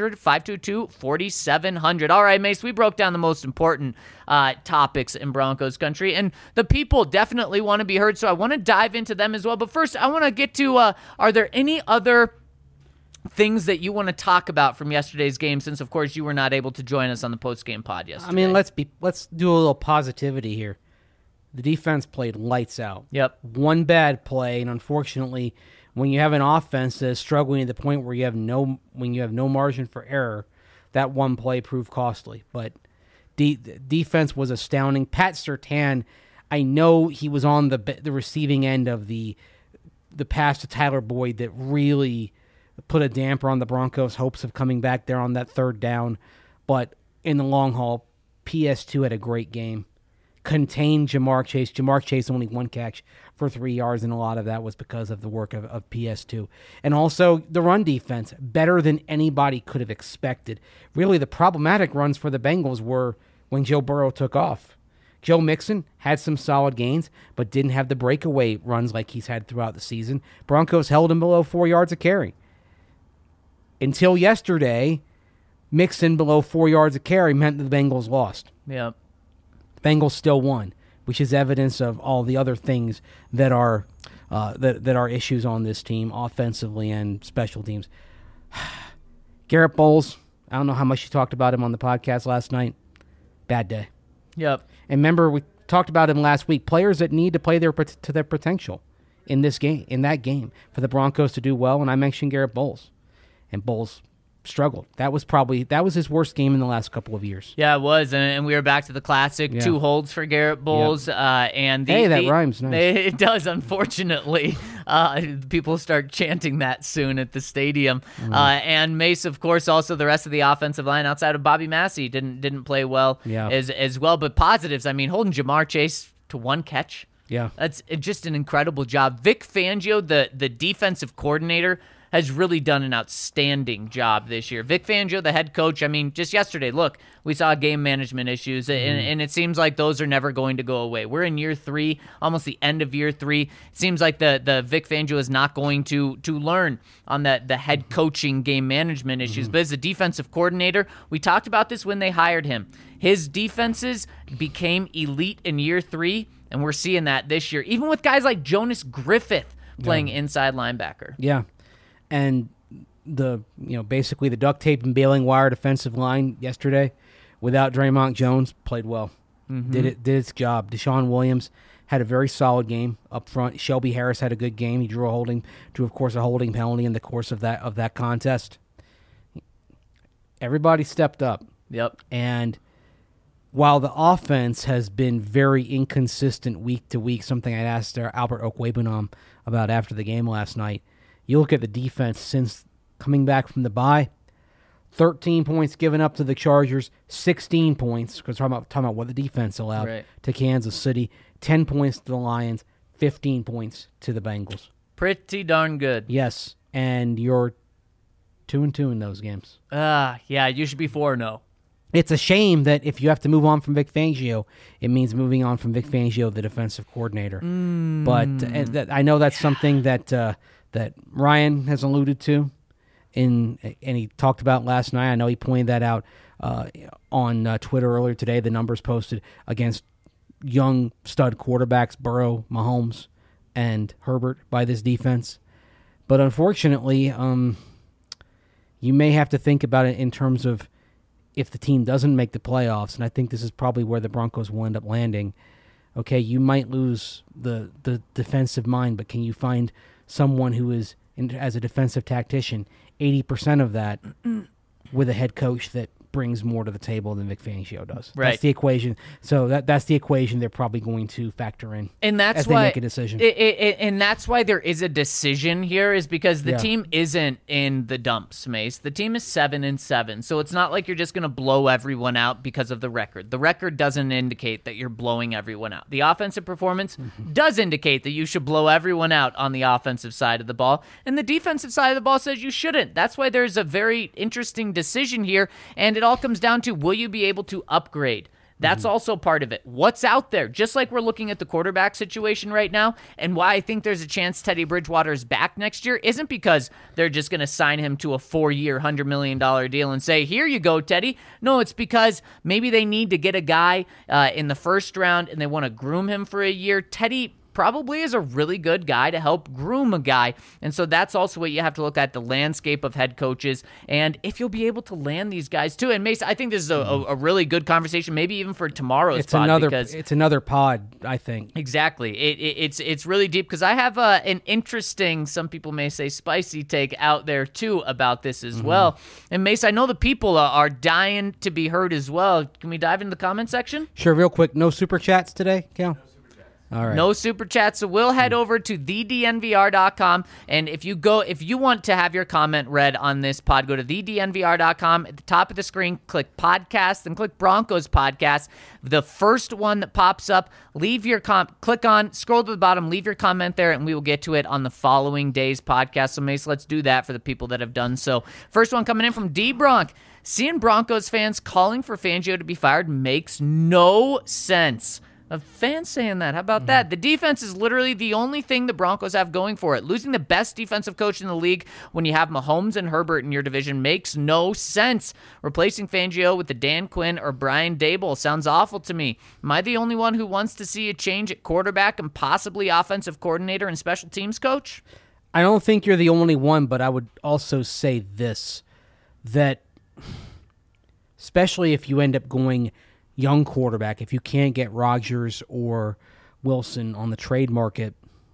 1-800-522-4700. All right, Mace, we broke down the most important topics in Broncos country, and the people definitely want to be heard, so I want to dive into them as well. But first, I want to get to, are there any other things that you want to talk about from yesterday's game, since, of course, you were not able to join us on the post-game pod yesterday? I mean, let's do a little positivity here. The defense played lights out. Yep. One bad play, and unfortunately, when you have an offense that is struggling to the point where you have no margin for error, that one play proved costly. But defense was astounding. Pat Surtain, I know he was on the receiving end of the pass to Tyler Boyd that really put a damper on the Broncos' hopes of coming back there on that third down. But in the long haul, PS2 had a great game. Contained Jamar Chase. Jamar Chase only one catch for 3 yards, and a lot of that was because of the work of PS2. And also the run defense, better than anybody could have expected. Really, the problematic runs for the Bengals were when Joe Burrow took off. Joe Mixon had some solid gains, but didn't have the breakaway runs like he's had throughout the season. Broncos held him below 4 yards a carry. Until yesterday, Mixon below 4 yards a carry meant that the Bengals lost. Yeah. Bengals still won, which is evidence of all the other things that are that are issues on this team, offensively and special teams. Garrett Bowles, I don't know how much you talked about him on the podcast last night. Bad day. Yep. And remember, we talked about him last week. Players that need to play to their potential in that game, for the Broncos to do well. And I mentioned Garrett Bowles, and Bowles struggled. That was his worst game in the last couple of years. Yeah, it was, and we were back to the classic 2 holds for Garrett Bowles. Yep. That rhymes nice. It does, unfortunately. People start chanting that soon at the stadium. And Mace, of course, also the rest of the offensive line outside of Bobby Massey didn't play well as well. But positives, I mean, holding Jamar Chase to 1 catch. Yeah, that's just an incredible job. Vic Fangio, the defensive coordinator, has really done an outstanding job this year. Vic Fangio, the head coach, I mean, just yesterday, look, we saw game management issues, and it seems like those are never going to go away. We're in year 3, almost the end of year 3. It seems like the Vic Fangio is not going to learn on the head coaching game management issues. But as a defensive coordinator, we talked about this when they hired him. His defenses became elite in year 3, and we're seeing that this year, even with guys like Jonas Griffith playing inside linebacker. Yeah. And basically the duct tape and baling wire defensive line yesterday, without Draymond Jones, played well. Did its job. Deshaun Williams had a very solid game up front. Shelby Harris had a good game. He drew a holding penalty in the course of that contest. Everybody stepped up. Yep. And while the offense has been very inconsistent week to week, something I asked Albert Okwuegbunam about after the game last night, you look at the defense since coming back from the bye, 13 points given up to the Chargers, 16 points, because talking about what the defense allowed to Kansas City, 10 points to the Lions, 15 points to the Bengals. Pretty darn good. Yes, and you're 2-2 in those games. Yeah, you should be 4-0. It's a shame that if you have to move on from Vic Fangio, it means moving on from Vic Fangio, the defensive coordinator. But I know that's something that Ryan has alluded to, and he talked about last night. I know he pointed that out on Twitter earlier today. The numbers posted against young stud quarterbacks, Burrow, Mahomes, and Herbert by this defense. But unfortunately, you may have to think about it in terms of if the team doesn't make the playoffs, and I think this is probably where the Broncos will end up landing. Okay, you might lose the defensive mind, but can you find someone who is, as a defensive tactician, 80% of that with a head coach that brings more to the table than Vic Fangio does? Right. That's the equation. So that's the equation they're probably going to factor in, and that's as why they make a decision. And that's why there is a decision here, is because the team isn't in the dumps, Mace. The team is 7-7, so it's not like you're just going to blow everyone out because of the record. The record doesn't indicate that you're blowing everyone out. The offensive performance does indicate that you should blow everyone out on the offensive side of the ball, and the defensive side of the ball says you shouldn't. That's why there's a very interesting decision here, and it all comes down to, will you be able to upgrade That's also part of it. What's out there? Just like we're looking at the quarterback situation right now, and why I think there's a chance Teddy Bridgewater is back next year isn't because they're just going to sign him to a 4-year, $100 million deal and say, here you go, Teddy. No, it's because maybe they need to get a guy in the first round and they want to groom him for a year. Teddy probably is a really good guy to help groom a guy. And so that's also what you have to look at, the landscape of head coaches, and if you'll be able to land these guys too. And Mace, I think this is a really good conversation, maybe even for tomorrow's pod. It's another pod, I think. Exactly. It's really deep because I have an interesting, some people may say spicy take out there too about this as well. And Mace, I know the people are dying to be heard as well. Can we dive into the comment section? Sure, real quick. No super chats today, Cal? All right. No super chats, so we'll head over to thednvr.com, and if you want to have your comment read on this pod, go to thednvr.com. At the top of the screen, click podcast, and click Broncos podcast. The first one that pops up, leave your click on, scroll to the bottom, leave your comment there, and we will get to it on the following day's podcast. So Mace, let's do that for the people that have done so. First one coming in from D Bronk. Seeing Broncos fans calling for Fangio to be fired makes no sense. A fan saying that. How about that? The defense is literally the only thing the Broncos have going for it. Losing the best defensive coach in the league when you have Mahomes and Herbert in your division makes no sense. Replacing Fangio with the Dan Quinn or Brian Daboll sounds awful to me. Am I the only one who wants to see a change at quarterback and possibly offensive coordinator and special teams coach? I don't think you're the only one, but I would also say this, that especially if you end up going young quarterback, if you can't get Rodgers or Wilson on the trade market,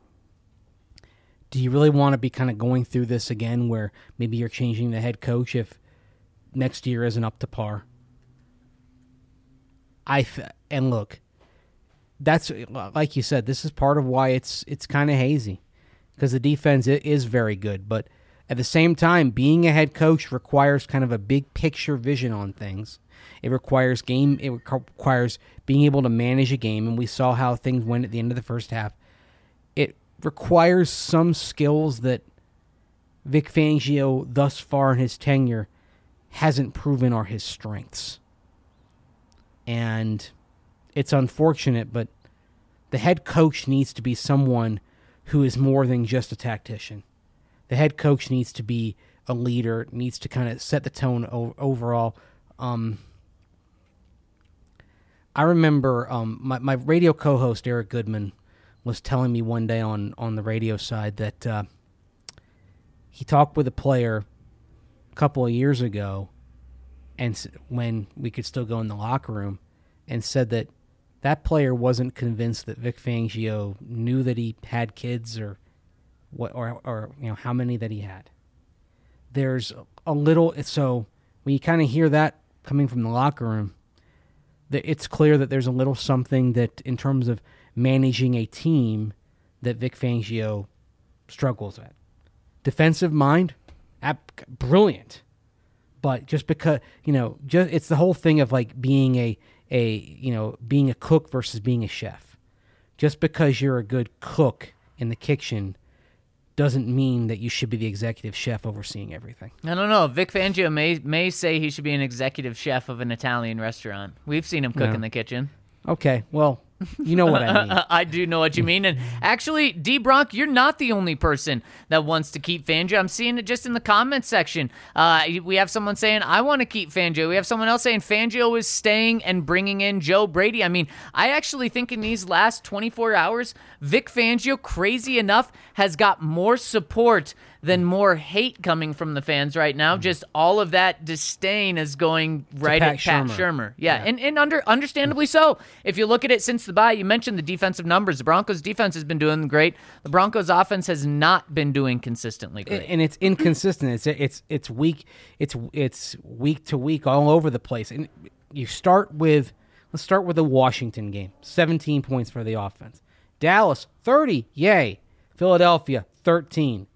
do you really want to be kind of going through this again where maybe you're changing the head coach if next year isn't up to par? And look, that's like you said, this is part of why it's kind of hazy, because the defense is very good, but at the same time, being a head coach requires kind of a big picture vision on things. It requires being able to manage a game, and we saw how things went at the end of the first half. It requires some skills that Vic Fangio, thus far in his tenure, hasn't proven are his strengths. And it's unfortunate, but the head coach needs to be someone who is more than just a tactician. The head coach needs to be a leader, needs to kind of set the tone overall. I remember my radio co-host, Eric Goodman, was telling me one day on the radio side that he talked with a player a couple of years ago, and when we could still go in the locker room, and said that player wasn't convinced that Vic Fangio knew that he had kids or what, or you know, how many that he had. There's a little, so when you kind of hear that coming from the locker room, it's clear that there's a little something that, in terms of managing a team, that Vic Fangio struggles at. Defensive mind, brilliant, but just because, it's the whole thing of like being being a cook versus being a chef. Just because you're a good cook in the kitchen doesn't mean that you should be the executive chef overseeing everything. I don't know. Vic Fangio may say he should be an executive chef of an Italian restaurant. We've seen him cook in the kitchen. Okay, well, you know what I mean. I do know what you mean. And actually, D. Bronk, you're not the only person that wants to keep Fangio. I'm seeing it just in the comments section. We have someone saying, I want to keep Fangio. We have someone else saying Fangio is staying and bringing in Joe Brady. I mean, I actually think in these last 24 hours, Vic Fangio, crazy enough, has got more support than more hate coming from the fans right now. Just all of that disdain is going right at Pat Shurmur. Yeah. And understandably so. If you look at it since the bye, you mentioned the defensive numbers. The Broncos' defense has been doing great. The Broncos' offense has not been doing consistently great. And it's inconsistent. It's week. It's week to week all over the place. And let's start with the Washington game. 17 points for the offense. Dallas 30, yay. Philadelphia 13.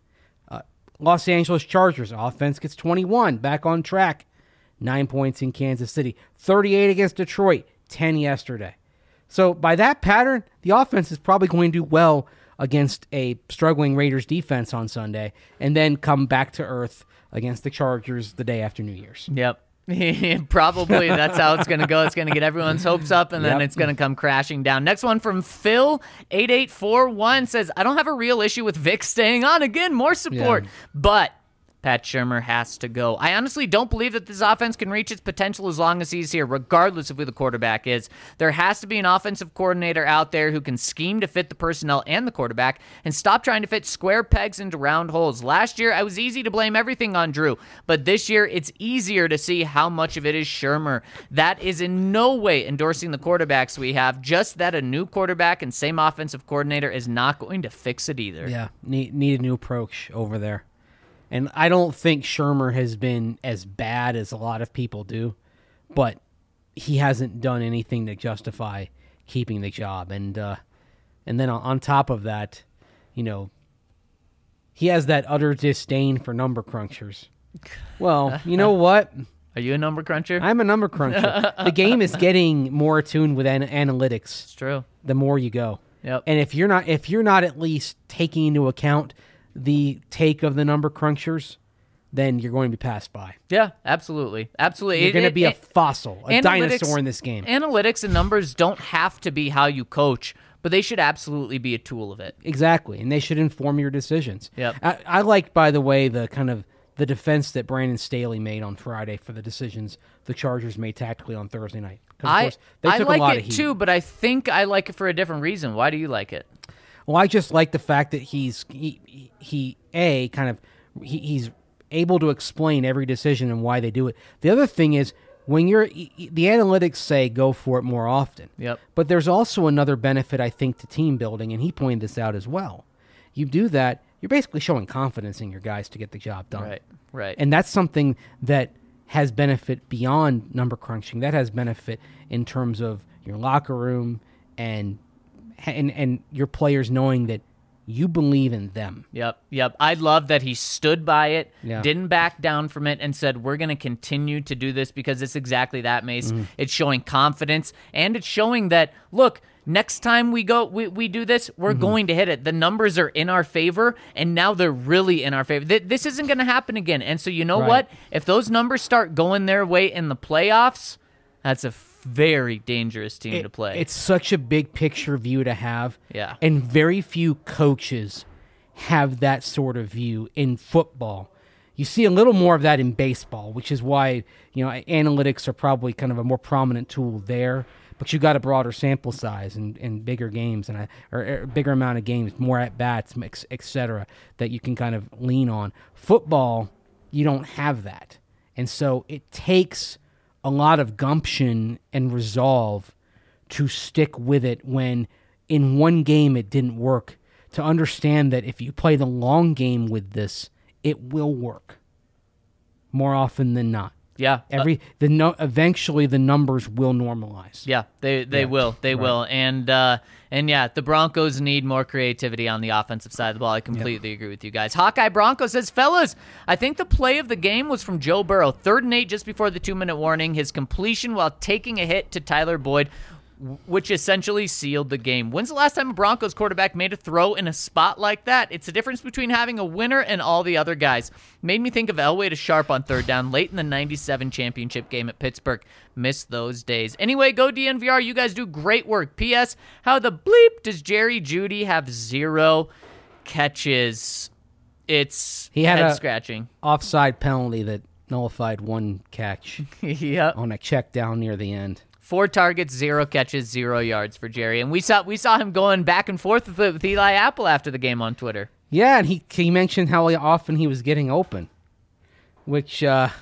Los Angeles Chargers, offense gets 21, back on track. 9 points in Kansas City. 38 against Detroit, 10 yesterday. So by that pattern, the offense is probably going to do well against a struggling Raiders defense on Sunday, and then come back to earth against the Chargers the day after New Year's. Yep. Probably that's how it's going to go. It's going to get everyone's hopes up, and then Yep. it's going to come crashing down. Next one from Phil8841 says, I don't have a real issue with Vic staying on. Again, more support. Yeah. But Pat Shurmur has to go. I honestly don't believe that this offense can reach its potential as long as he's here, regardless of who the quarterback is. There has to be an offensive coordinator out there who can scheme to fit the personnel and the quarterback and stop trying to fit square pegs into round holes. Last year, I was easy to blame everything on Drew, but this year, it's easier to see how much of it is Shurmur. That is in no way endorsing the quarterbacks we have, just that a new quarterback and same offensive coordinator is not going to fix it either. Yeah, need a new approach over there. And I don't think Shurmur has been as bad as a lot of people do, but he hasn't done anything to justify keeping the job. And then on top of that, he has that utter disdain for number crunchers. Well, you know what? Are you a number cruncher? I'm a number cruncher. The game is getting more attuned with analytics. It's true. The more you go. Yep. And if you're not at least taking into account the take of the number crunchers, then you're going to be passed by. Yeah, absolutely. Absolutely. You're going to be a fossil, a analytics- dinosaur in this game. Analytics and numbers don't have to be how you coach, but they should absolutely be a tool of it. Exactly, and they should inform your decisions. Yep. I like, by the way, the defense that Brandon Staley made on Friday for the decisions the Chargers made tactically on Thursday night. 'Cause, of course, they took a lot like of it heat. too, but I think I like it for a different reason. Why do you like it? Well, I just like the fact that he's able to explain every decision and why they do it. The other thing is when the analytics say go for it more often. Yep. But there's also another benefit, I think, to team building, and he pointed this out as well. You do that, you're basically showing confidence in your guys to get the job done. Right. And that's something that has benefit beyond number crunching. That has benefit in terms of your locker room and your players knowing that you believe in them. Yep. I love that he stood by it, Yeah. didn't back down from it, and said, we're going to continue to do this because it's exactly that, Mace. Mm-hmm. It's showing confidence, and it's showing that, look, next time we do this, we're Mm-hmm. going to hit it. The numbers are in our favor, and now they're really in our favor. This isn't going to happen again. And so you know Right. what? If those numbers start going their way in the playoffs, that's a very dangerous team to play. It's such a big picture view to have. Yeah. And very few coaches have that sort of view in football. You see a little more of that in baseball, which is why, analytics are probably kind of a more prominent tool there. But you got a broader sample size and bigger games or a bigger amount of games, more at bats, et cetera, that you can kind of lean on. Football, you don't have that. And so it takes a lot of gumption and resolve to stick with it when in one game it didn't work, to understand that if you play the long game with this, it will work more often than not. Yeah. Eventually the numbers will normalize. Yeah, they will. They will. And yeah, the Broncos need more creativity on the offensive side of the ball. I completely agree with you guys. Hawkeye Bronco says, fellas, I think the play of the game was from Joe Burrow. 3rd and 8 just before the 2-minute warning. His completion while taking a hit to Tyler Boyd, which essentially sealed the game. When's the last time a Broncos quarterback made a throw in a spot like that? It's the difference between having a winner and all the other guys. Made me think of Elway to Sharp on 3rd down late in the 97 championship game at Pittsburgh. Missed those days. Anyway, go DNVR. You guys do great work. P.S. How the bleep does Jerry Jeudy have 0 catches? It's He had head a- scratching. Offside penalty that nullified one catch Yep. on a check down near the end. 4 targets, 0 catches, 0 yards for Jerry. And we saw him going back and forth with Eli Apple after the game on Twitter. Yeah, and he mentioned how often he was getting open, which, I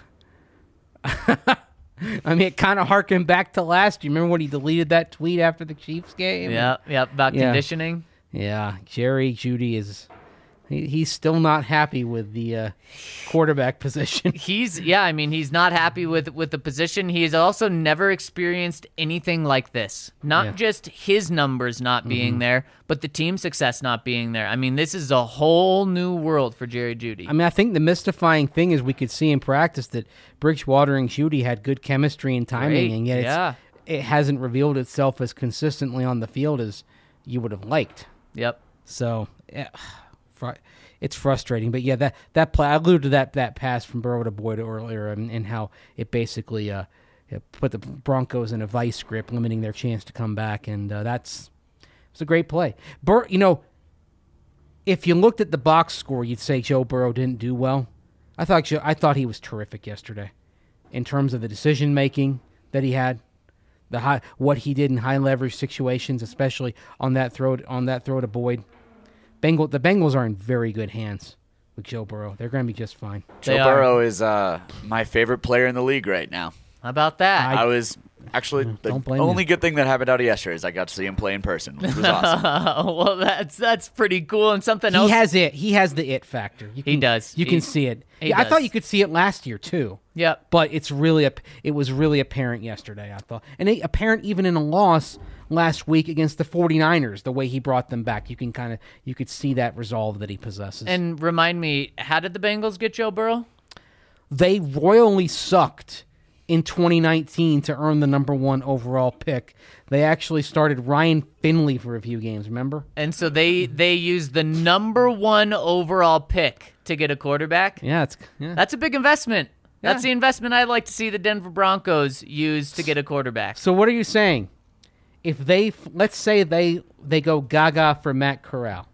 mean, it kind of harkened back to last year. Remember when he deleted that tweet after the Chiefs game? Yeah, about Yeah. conditioning. Yeah, Jerry Jeudy he's still not happy with the quarterback position. He's not happy with the position. He's also never experienced anything like this. Not just his numbers not being there, but the team success not being there. I mean, this is a whole new world for Jerry Jeudy. I mean, I think the mystifying thing is we could see in practice that Bridgewater and Jeudy had good chemistry and timing, Great, and yet it hasn't revealed itself as consistently on the field as you would have liked. Yep. So, it's frustrating. But yeah, that play, I alluded to that pass from Burrow to Boyd earlier, and how it basically put the Broncos in a vice grip, limiting their chance to come back, and it's a great play. If you looked at the box score, you'd say Joe Burrow didn't do well. I thought he was terrific yesterday, in terms of the decision making that he had, what he did in high leverage situations, especially on that throw to Boyd. The Bengals are in very good hands with Joe Burrow. They're going to be just fine. Joe Burrow is my favorite player in the league right now. How about that? I was actually the only good thing that happened out of yesterday is I got to see him play in person, which was awesome. Well, that's pretty cool. And something else. He has the it factor. He does. You can see it. I thought you could see it last year too. Yep. But it was really apparent yesterday, I thought. And apparent even in a loss last week against the 49ers, the way he brought them back. You could see that resolve that he possesses. And remind me, how did the Bengals get Joe Burrow? They royally sucked in 2019 to earn the number 1 overall pick. They actually started Ryan Finley for a few games, remember? And so they used the number 1 overall pick to get a quarterback? Yeah. That's a big investment. Yeah. That's the investment I'd like to see the Denver Broncos use to get a quarterback. So what are you saying? If let's say they go gaga for Matt Corral,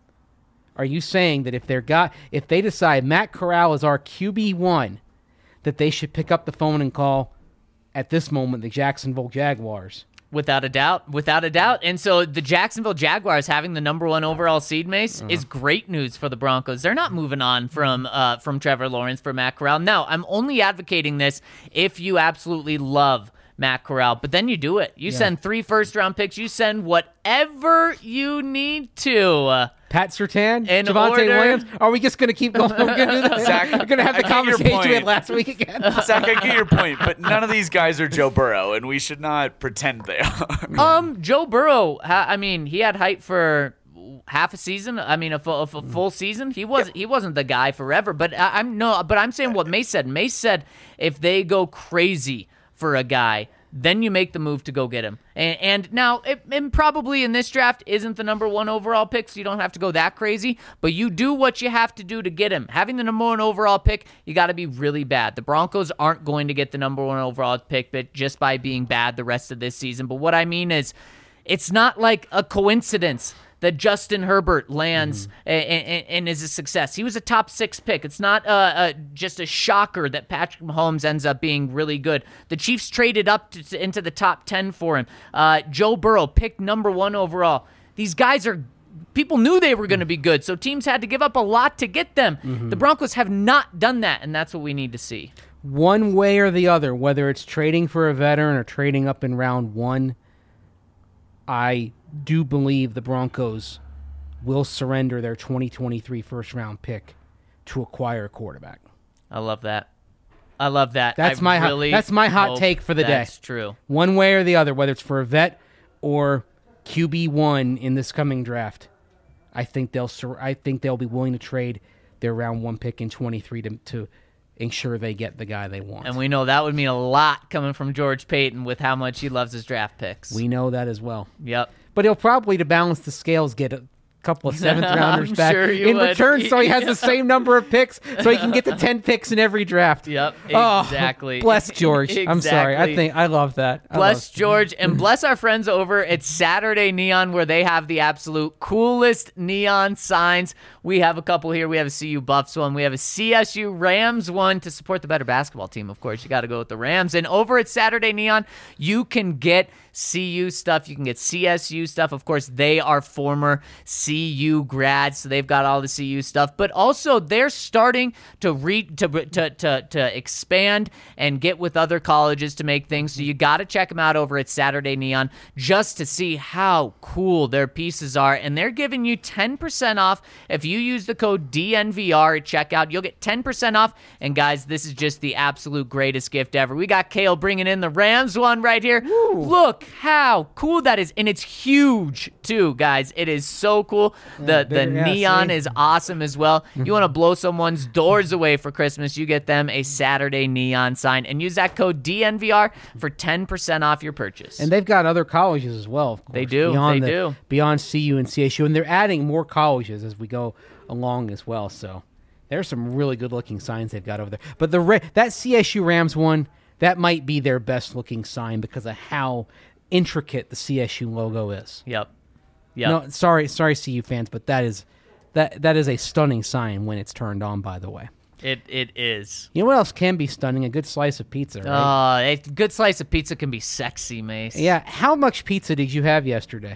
are you saying that if they decide Matt Corral is our QB1, that they should pick up the phone and call, at this moment, the Jacksonville Jaguars? Without a doubt. And so the Jacksonville Jaguars having the number 1 overall seed, Mace, is great news for the Broncos. They're not moving on from Trevor Lawrence for Matt Corral. Now, I'm only advocating this if you absolutely love Matt Corral, but then you do it. You send 3 first-round picks. You send whatever you need to. Pat Surtain, In Javonte order. Williams. Are we just going to keep going? We're going to do this. Zach, We're going to have the I get your conversation we had point. last week again. Zach, I get your point, but none of these guys are Joe Burrow, and we should not pretend they are. Joe Burrow, he had hype for half a season. A full season. He wasn't the guy forever. But I'm saying what Mace said. Mace said if they go crazy for a guy, then you make the move to go get him. And now, it probably in this draft isn't the number 1 overall pick, so you don't have to go that crazy, but you do what you have to do to get him. Having the number 1 overall pick, you got to be really bad. The Broncos aren't going to get the number 1 overall pick but just by being bad the rest of this season. But what I mean is, it's not like a coincidence that Justin Herbert lands and is a success. He was a top 6 pick. It's not just a shocker that Patrick Mahomes ends up being really good. The Chiefs traded up into the top 10 for him. Joe Burrow picked number 1 overall. These guys people knew they were going to be good, so teams had to give up a lot to get them. The Broncos have not done that, and that's what we need to see. One way or the other, whether it's trading for a veteran or trading up in round 1, I do believe the Broncos will surrender their 2023 first-round pick to acquire a quarterback. I love that. That's my hot take for the day. That's true. One way or the other, whether it's for a vet or QB1 in this coming draft, I think they'll be willing to trade their round 1 pick in 23 to ensure they get the guy they want. And we know that would mean a lot coming from George Payton with how much he loves his draft picks. We know that as well. Yep. But he'll probably, to balance the scales, get a couple of 7th-rounders I'm back sure you in would. return, so he has the same number of picks, so he can get the 10 picks in every draft. Yep, Oh, exactly. bless George. I'm sorry. Exactly. I love that. Bless George, and bless our friends over at Saturday Neon, where they have the absolute coolest neon signs. We have a couple here. We have a CU Buffs one. We have a CSU Rams one to support the better basketball team. Of course, you got to go with the Rams. And over at Saturday Neon, you can get CU stuff. You can get CSU stuff. Of course, they are former CU grads, so they've got all the CU stuff. But also, they're starting to expand and get with other colleges to make things. So you got to check them out over at Saturday Neon just to see how cool their pieces are. And they're giving you 10% off if you use the code DNVR at checkout. You'll get 10% off. And guys, this is just the absolute greatest gift ever. We got Kale bringing in the Rams one right here. Woo. Look Look how cool that is. And it's huge, too, guys. It is so cool. The neon is awesome as well. You want to blow someone's doors away for Christmas, you get them a Saturday neon sign. And use that code DNVR for 10% off your purchase. And they've got other colleges as well, of course. They do. Beyond CU and CSU. And they're adding more colleges as we go along as well. So there's some really good-looking signs they've got over there. But that CSU Rams one, that might be their best-looking sign because of how intricate the CSU logo is. Yep. No, sorry, CU fans, but that is a stunning sign when it's turned on, by the way. It is. You know what else can be stunning? A good slice of pizza, right? A good slice of pizza can be sexy, Mace. Yeah. How much pizza did you have yesterday?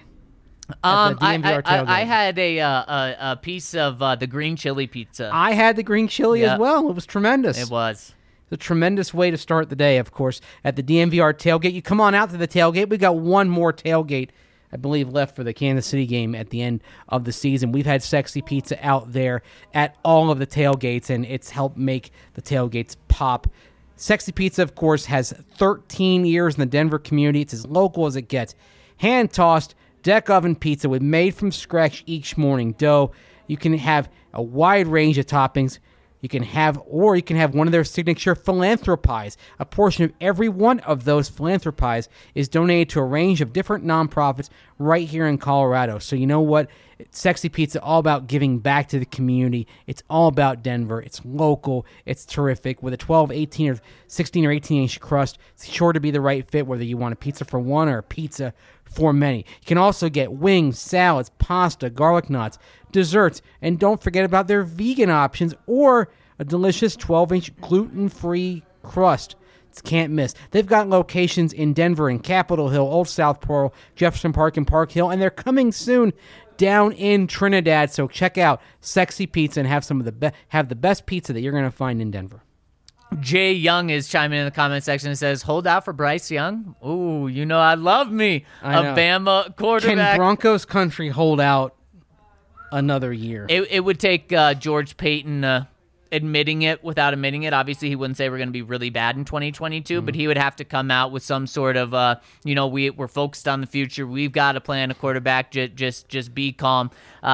I had a piece of the green chili pizza. I had the green chili as well. It was tremendous. It was. It's a tremendous way to start the day, of course, at the DNVR tailgate. You come on out to the tailgate. We got one more tailgate, I believe, left for the Kansas City game at the end of the season. We've had Sexy Pizza out there at all of the tailgates, and it's helped make the tailgates pop. Sexy Pizza, of course, has 13 years in the Denver community. It's as local as it gets. Hand-tossed, deck oven pizza with made from scratch each morning dough. You can have a wide range of toppings. You can have one of their signature philanthropies. A portion of every one of those philanthropies is donated to a range of different nonprofits right here in Colorado. So you know what? Sexy Pizza, all about giving back to the community. It's all about Denver. It's local. It's terrific. With a 12, 18, or 16 or 18-inch crust, it's sure to be the right fit, whether you want a pizza for one or a pizza for many. You can also get wings, salads, pasta, garlic knots, desserts, and don't forget about their vegan options or a delicious 12-inch gluten-free crust. Can't miss. They've got locations in Denver and Capitol Hill, Old South Pearl, Jefferson Park, and Park Hill, and they're coming soon down in Trinidad. So check out Sexy Pizza and have some of the best pizza that you're going to find in Denver. Jay Young is chiming in the comment section and says, hold out for Bryce Young. Ooh, you know I love me a Bama quarterback. Can Broncos country hold out another year? It would take George Payton admitting it without admitting it. Obviously, he wouldn't say we're going to be really bad in 2022, but he would have to come out with some sort of, we're focused on the future. We've got to plan a quarterback. Just be calm.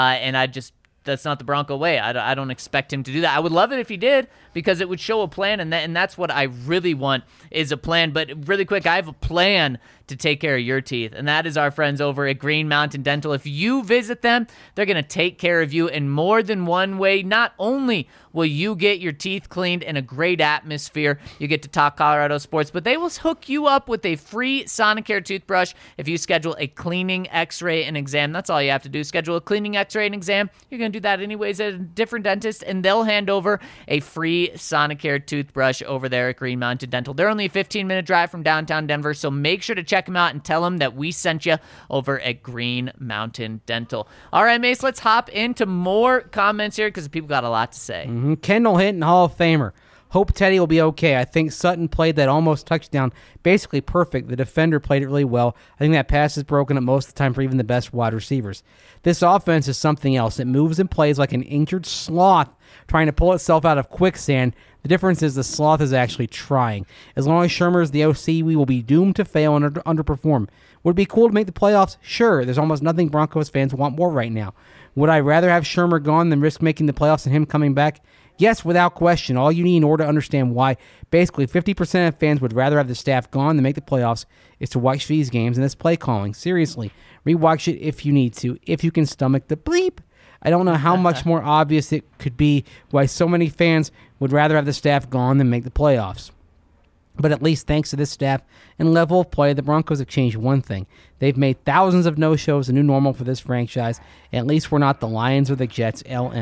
That's not the Bronco way. I don't expect him to do that. I would love it if he did because it would show a plan, and that's what I really want is a plan. But really quick, I have a plan to take care of your teeth, and that is our friends over at Green Mountain Dental. If you visit them, they're going to take care of you in more than one way. Not only will you get your teeth cleaned in a great atmosphere, you get to talk Colorado sports, but they will hook you up with a free Sonicare toothbrush if you schedule a cleaning, x-ray, and exam. That's all you have to do. Schedule a cleaning, x-ray, and exam. You're going to do that anyways at a different dentist, and they'll hand over a free Sonicare toothbrush over there at Green Mountain Dental. They're only a 15-minute drive from downtown Denver, so make sure to check them out and tell them that we sent you over at Green Mountain Dental. All right, Mace, let's hop into more comments here because people got a lot to say. Kendall Hinton, Hall of Famer. Hope Teddy will be okay. I think Sutton played that almost touchdown basically perfect. The defender played it really well. I think that pass is broken up most of the time for even the best wide receivers. This offense is something else. It moves and plays like an injured sloth trying to pull itself out of quicksand. The difference is the sloth is actually trying. As long as Shermer is the OC, we will be doomed to fail and underperform. Would it be cool to make the playoffs? Sure. There's almost nothing Broncos fans want more right now. Would I rather have Shermer gone than risk making the playoffs and him coming back? Yes, without question. All you need in order to understand why basically 50% of fans would rather have the staff gone than make the playoffs is to watch these games and this play calling. Seriously, rewatch it if you need to, if you can stomach the bleep. I don't know how much more obvious it could be why so many fans would rather have the staff gone than make the playoffs. But at least thanks to this staff and level of play, the Broncos have changed one thing. They've made thousands of no-shows a new normal for this franchise. At least we're not the Lions or the Jets,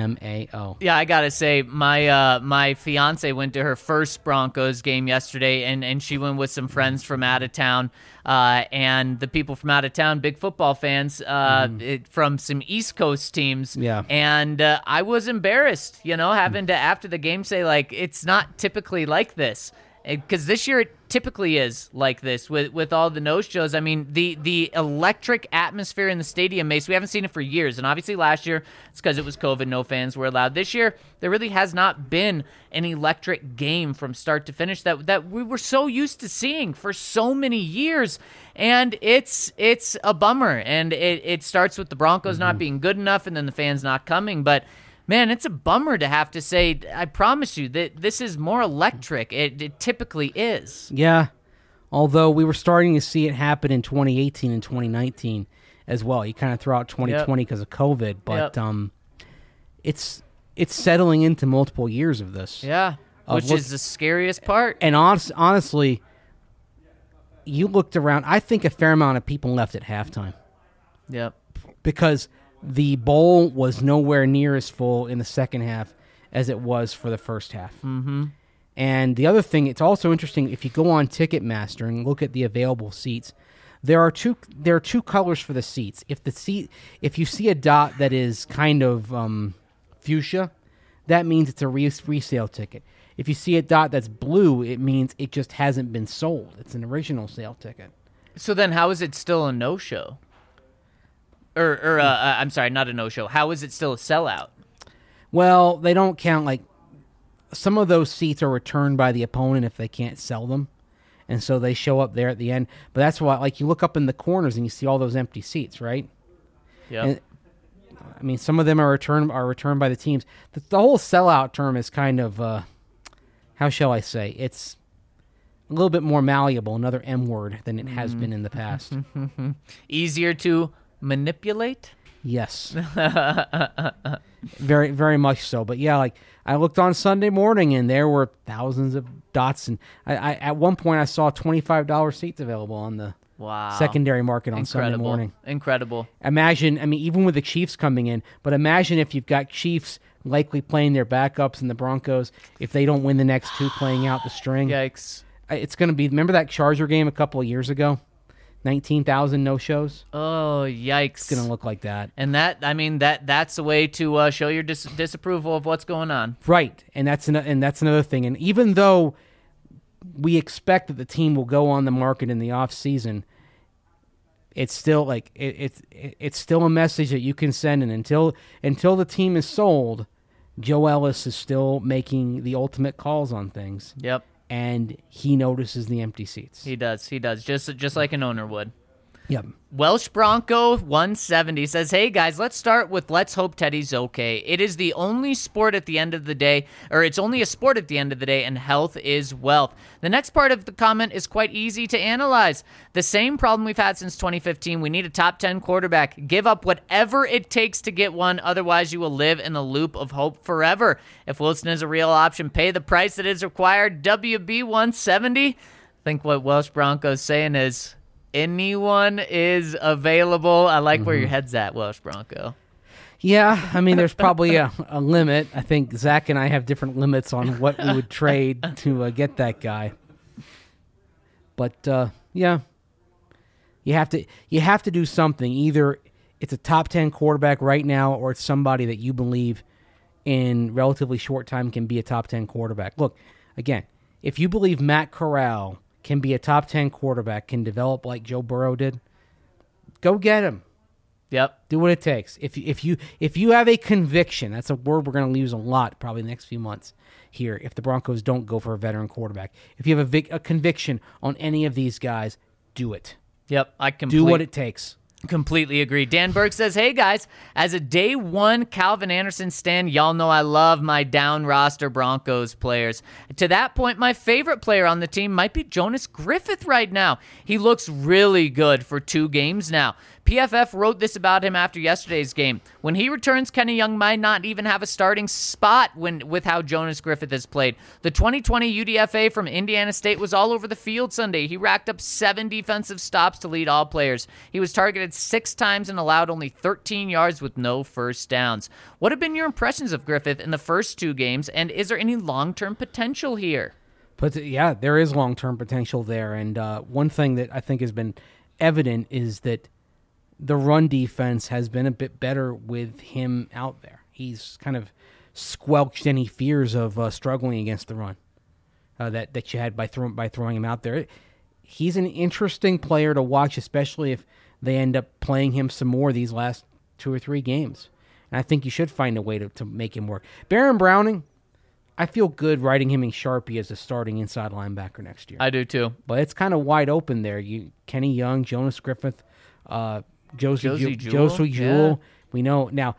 LMAO. Yeah, I got to say, my fiance went to her first Broncos game yesterday, and she went with some friends from out of town. And the people from out of town, big football fans from some East Coast teams. Yeah. And I was embarrassed, having to, after the game, say, like, it's not typically like this. Because this year it typically is like this with all the no-shows. I mean, the electric atmosphere in the stadium, Mace, we haven't seen it for years. And obviously last year, it's because it was COVID, no fans were allowed. This year, there really has not been an electric game from start to finish that we were so used to seeing for so many years. And it's a bummer. And it starts with the Broncos not being good enough and then the fans not coming. But man, it's a bummer to have to say, I promise you, that this is more electric. It typically is. Yeah, although we were starting to see it happen in 2018 and 2019 as well. You kind of throw out 2020 because of COVID, but it's settling into multiple years of this. Yeah, which is the scariest part. And honestly, you looked around, I think a fair amount of people left at halftime. Yep. Because the bowl was nowhere near as full in the second half as it was for the first half. Mm-hmm. And the other thing, it's also interesting, if you go on Ticketmaster and look at the available seats, there are two colors for the seats. If you see a dot that is kind of fuchsia, that means it's a resale ticket. If you see a dot that's blue, it means it just hasn't been sold. It's an original sale ticket. So then how is it still a no-show? I'm sorry, not a no-show. How is it still a sellout? Well, they don't count, like, some of those seats are returned by the opponent if they can't sell them, and so they show up there at the end. But that's why, like, you look up in the corners and you see all those empty seats, right? Yeah. I mean, some of them are returned by the teams. The whole sellout term is kind of, how shall I say, it's a little bit more malleable, another M word, than it has been in the past. Easier to manipulate? Yes. Very, very much so. But yeah, like, I looked on Sunday morning and there were thousands of dots, and I at one point I saw $25 seats available on the secondary market on Sunday morning. Incredible. Imagine, I mean, even with the Chiefs coming in, but imagine if you've got Chiefs likely playing their backups and the Broncos, if they don't win the next two, playing out the string. Yikes. It's going to be, remember that Charger game a couple of years ago? 19,000 no-shows. Oh, yikes! It's gonna look like that. And that's a way to show your disapproval of what's going on. Right, and that's another thing. And even though we expect that the team will go on the market in the off season, it's still like it's still a message that you can send. And until the team is sold, Joe Ellis is still making the ultimate calls on things. Yep. And he notices the empty seats. He does, just like an owner would. Yep. Welsh Bronco 170 says, hey guys, let's start with let's hope Teddy's okay. It is the only sport at the end of the day, or it's only a sport at the end of the day, and health is wealth. The next part of the comment is quite easy to analyze. The same problem we've had since 2015. We need a top 10 quarterback. Give up whatever it takes to get one, otherwise you will live in the loop of hope forever. If Wilson is a real option, pay the price that is required. WB 170. I think what Welsh Bronco's saying is, anyone is available. I like where your head's at, Welsh Bronco. Yeah, I mean, there's probably a limit. I think Zach and I have different limits on what we would trade to get that guy. But yeah, you have to do something. Either it's a top 10 quarterback right now, or it's somebody that you believe in relatively short time can be a top 10 quarterback. Look, again, if you believe Matt Corral can be a top 10 quarterback, can develop like Joe Burrow did, go get him. Yep. Do what it takes. If you have a conviction, that's a word we're going to use a lot probably the next few months here if the Broncos don't go for a veteran quarterback. If you have a conviction on any of these guys, do it. Yep. Do what it takes. Completely agree. Dan Burke says, hey guys, as a day one Calvin Anderson stan, y'all know I love my down roster Broncos players. To that point, my favorite player on the team might be Jonas Griffith right now. He looks really good for 2 games now. PFF wrote this about him after yesterday's game. When he returns, Kenny Young might not even have a starting spot with how Jonas Griffith has played. The 2020 UDFA from Indiana State was all over the field Sunday. He racked up 7 defensive stops to lead all players. He was targeted 6 times and allowed only 13 yards with no first downs. What have been your impressions of Griffith in the first 2 games, and is there any long-term potential here? But yeah, there is long-term potential there, and one thing that I think has been evident is that the run defense has been a bit better with him out there. He's kind of squelched any fears of struggling against the run. that you had by throwing him out there. He's an interesting player to watch, especially if they end up playing him some more these last 2 or 3 games. And I think you should find a way to make him work. Baron Browning, I feel good writing him in Sharpie as a starting inside linebacker next year. I do too. But it's kind of wide open there. Kenny Young, Jonas Griffith, Josie Jewell. Yeah. We know now.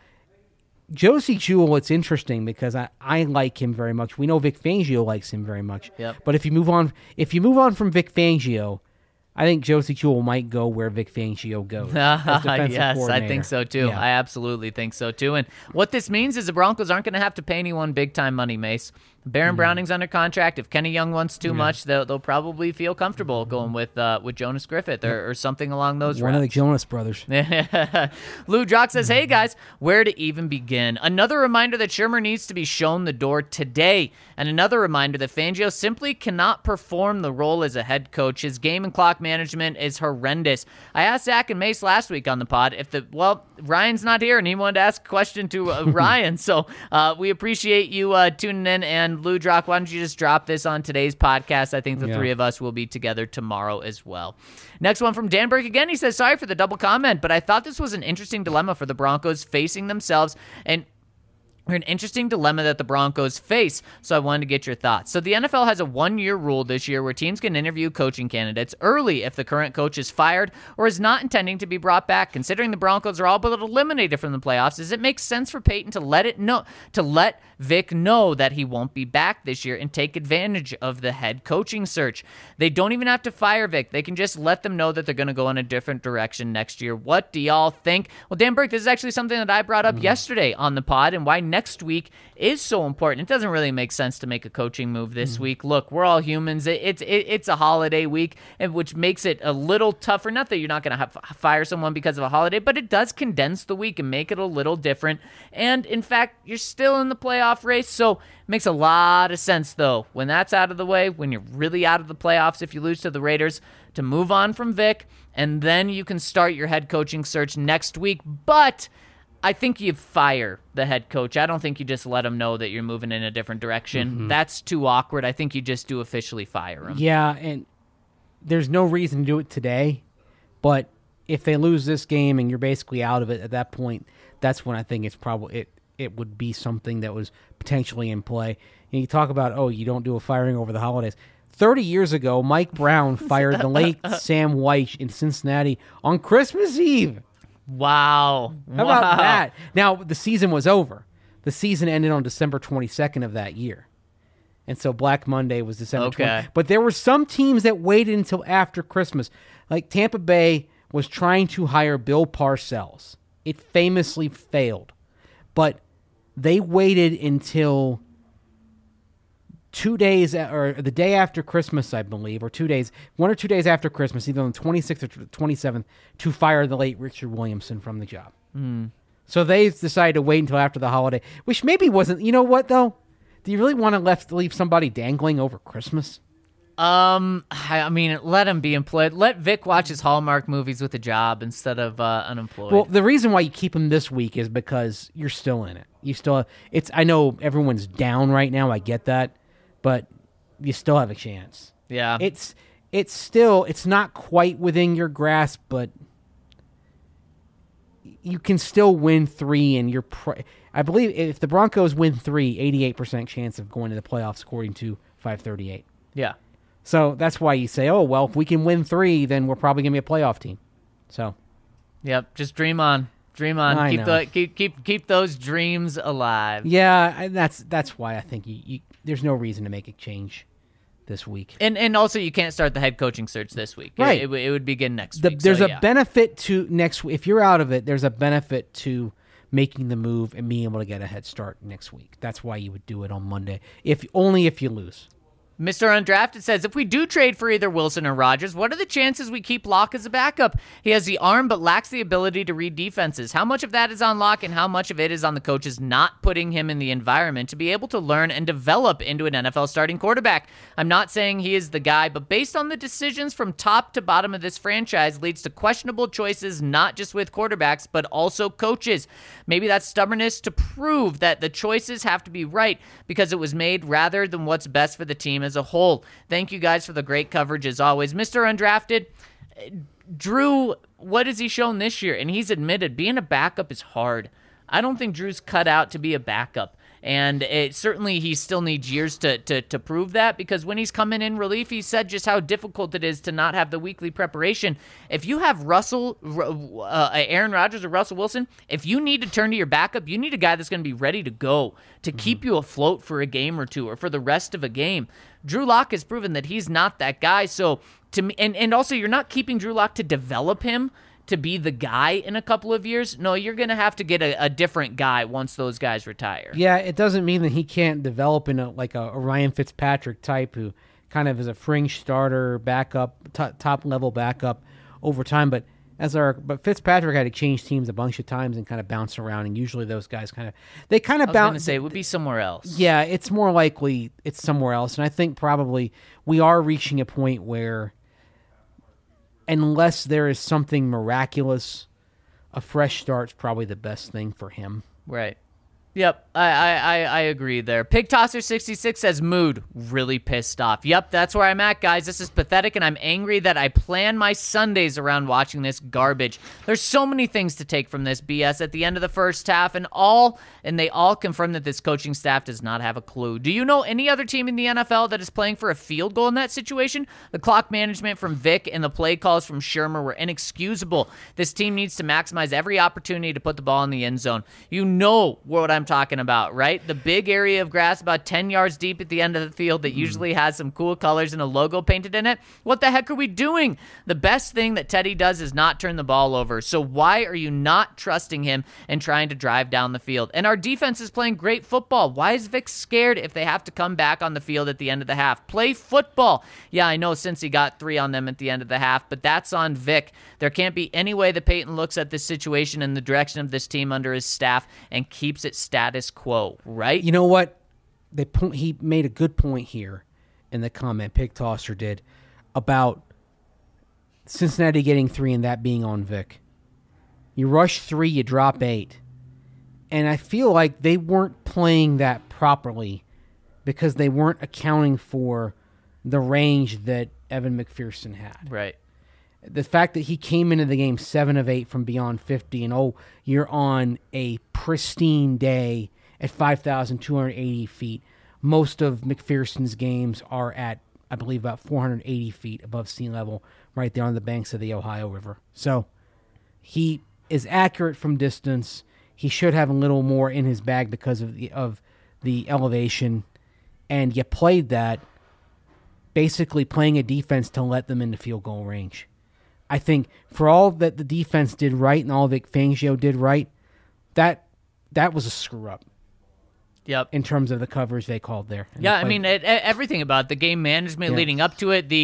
Josie Jewell, it's interesting because I like him very much. We know Vic Fangio likes him very much. Yep. But if you move on from Vic Fangio, I think Josie Jewell might go where Vic Fangio goes. as defensive Yes, I coordinator. think so too. Yeah. I absolutely think so too. And what this means is the Broncos aren't going to have to pay anyone big time money, Mace. Baron Browning's under contract. If Kenny Young wants too much, they'll probably feel comfortable going with Jonas Griffith or something along those One of the routes. Jonas brothers. Lou Drock says, hey guys, where to even begin? Another reminder that Shurmur needs to be shown the door today. And another reminder that Fangio simply cannot perform the role as a head coach. His game and clock management is horrendous. I asked Zach and Mace last week on the pod Ryan's not here and he wanted to ask a question to Ryan. So we appreciate you tuning in. And Lou Drock, why don't you just drop this on today's podcast? I think the three of us will be together tomorrow as well. Next one from Dan Burke again. He says, sorry for the double comment, but I thought this was an interesting dilemma for the Broncos facing themselves or an interesting dilemma that the Broncos face, so I wanted to get your thoughts. So the NFL has a 1-year rule this year where teams can interview coaching candidates early if the current coach is fired or is not intending to be brought back. Considering the Broncos are all but eliminated from the playoffs, does it make sense for Peyton to let Vic know that he won't be back this year and take advantage of the head coaching search? They don't even have to fire Vic. They can just let them know that they're going to go in a different direction next year. What do y'all think? Well, Dan Burke, this is actually something that I brought up yesterday on the pod and why next week is so important. It doesn't really make sense to make a coaching move this week. Look, we're all humans. It's a holiday week, which makes it a little tougher. Not that you're not going to fire someone because of a holiday, but it does condense the week and make it a little different. And in fact, you're still in the playoff race, so it makes a lot of sense, though, when that's out of the way, when you're really out of the playoffs if you lose to the Raiders, to move on from Vic, and then you can start your head coaching search next week. But I think you fire the head coach. I don't think you just let him know that you're moving in a different direction. That's too awkward. I think you just do officially fire him. Yeah, and there's no reason to do it today, but if they lose this game and you're basically out of it at that point, that's when I think it's probably it would be something that was potentially in play. And you talk about, you don't do a firing over the holidays. 30 years ago, Mike Brown fired the late Sam Wyche in Cincinnati on Christmas Eve. Wow. How about that? Now, the season was over. The season ended on December 22nd of that year. And so Black Monday was December 20th. But there were some teams that waited until after Christmas. Like Tampa Bay was trying to hire Bill Parcells. It famously failed. But they waited until 2 days, or the day after Christmas, I believe, or 2 days, 1 or 2 days after Christmas, either on the 26th or 27th, to fire the late Richard Williamson from the job. So they decided to wait until after the holiday, which maybe wasn't, you know what, though? Do you really want to leave somebody dangling over Christmas? I mean, let him be employed. Let Vic watch his Hallmark movies with a job instead of unemployed. Well, the reason why you keep him this week is because you're still in it. I know everyone's down right now, I get that. But you still have a chance. Yeah. It's not quite within your grasp, but you can still win 3, and I believe if the Broncos win 3, 88% chance of going to the playoffs according to 538. Yeah. So that's why you say, if we can win 3, then we're probably going to be a playoff team. So. Yep, just dream on. Dream on. Keep those dreams alive. Yeah, that's why I think there's no reason to make a change this week. And also you can't start the head coaching search this week. Right. It would begin next week. There's a benefit to next week. If you're out of it, there's a benefit to making the move and being able to get a head start next week. That's why you would do it on Monday, only if you lose. Mr. Undrafted says, if we do trade for either Wilson or Rodgers, what are the chances we keep Locke as a backup? He has the arm but lacks the ability to read defenses. How much of that is on Locke and how much of it is on the coaches not putting him in the environment to be able to learn and develop into an NFL starting quarterback? I'm not saying he is the guy, but based on the decisions from top to bottom of this franchise leads to questionable choices, not just with quarterbacks, but also coaches. Maybe that's stubbornness to prove that the choices have to be right because it was made rather than what's best for the team as as a whole. Thank you guys for the great coverage as always. Mr. Undrafted, Drew, what has he shown this year? And he's admitted being a backup is hard. I don't think Drew's cut out to be a backup. And certainly he still needs years to prove that, because when he's coming in relief, he said just how difficult it is to not have the weekly preparation. If you have Aaron Rodgers or Russell Wilson, if you need to turn to your backup, you need a guy that's going to be ready to go to keep you afloat for a game or two or for the rest of a game. Drew Lock has proven that he's not that guy. So to me, and also you're not keeping Drew Lock to develop him to be the guy in a couple of years. No, you're going to have to get a different guy once those guys retire. Yeah, it doesn't mean that he can't develop in a Ryan Fitzpatrick type who kind of is a fringe starter, backup, top level backup over time. But Fitzpatrick had to change teams a bunch of times and kind of bounce around, and usually those guys kind of bounce. I was going to say it would be somewhere else. Yeah, it's more likely it's somewhere else, and I think probably we are reaching a point where, unless there is something miraculous, a fresh start's probably the best thing for him. Right. Yep, I agree there. Pig Tosser 66 says, mood, really pissed off. Yep, that's where I'm at, guys. This is pathetic, and I'm angry that I plan my Sundays around watching this garbage. There's so many things to take from this BS at the end of the first half, and they all confirm that this coaching staff does not have a clue. Do you know any other team in the NFL that is playing for a field goal in that situation? The clock management from Vic and the play calls from Shermer were inexcusable. This team needs to maximize every opportunity to put the ball in the end zone. You know what I'm talking about, right? The big area of grass about 10 yards deep at the end of the field that usually has some cool colors and a logo painted in it. What the heck are we doing? The best thing that Teddy does is not turn the ball over. So why are you not trusting him and trying to drive down the field? And our defense is playing great football. Why is Vic scared if they have to come back on the field at the end of the half? Play football. Yeah, I know since he got 3 on them at the end of the half, but that's on Vic. There can't be any way that Peyton looks at this situation and the direction of this team under his staff and keeps it status quo, right? You know what? He made a good point here in the comment, Pig Tosser did, about Cincinnati getting 3 and that being on Vic. You rush 3, you drop 8. And I feel like they weren't playing that properly because they weren't accounting for the range that Evan McPherson had. Right. The fact that he came into the game 7 of 8 from beyond 50, and you're on a pristine day at 5,280 feet. Most of McPherson's games are at, I believe, about 480 feet above sea level, right there on the banks of the Ohio River. So he is accurate from distance. He should have a little more in his bag because of the elevation, and you played that, basically playing a defense to let them into field goal range. I think for all that the defense did right and all Vic Fangio did right, that was a screw up. Yep. In terms of the coverage they called there. Yeah, I mean, everything about the game management leading up to it.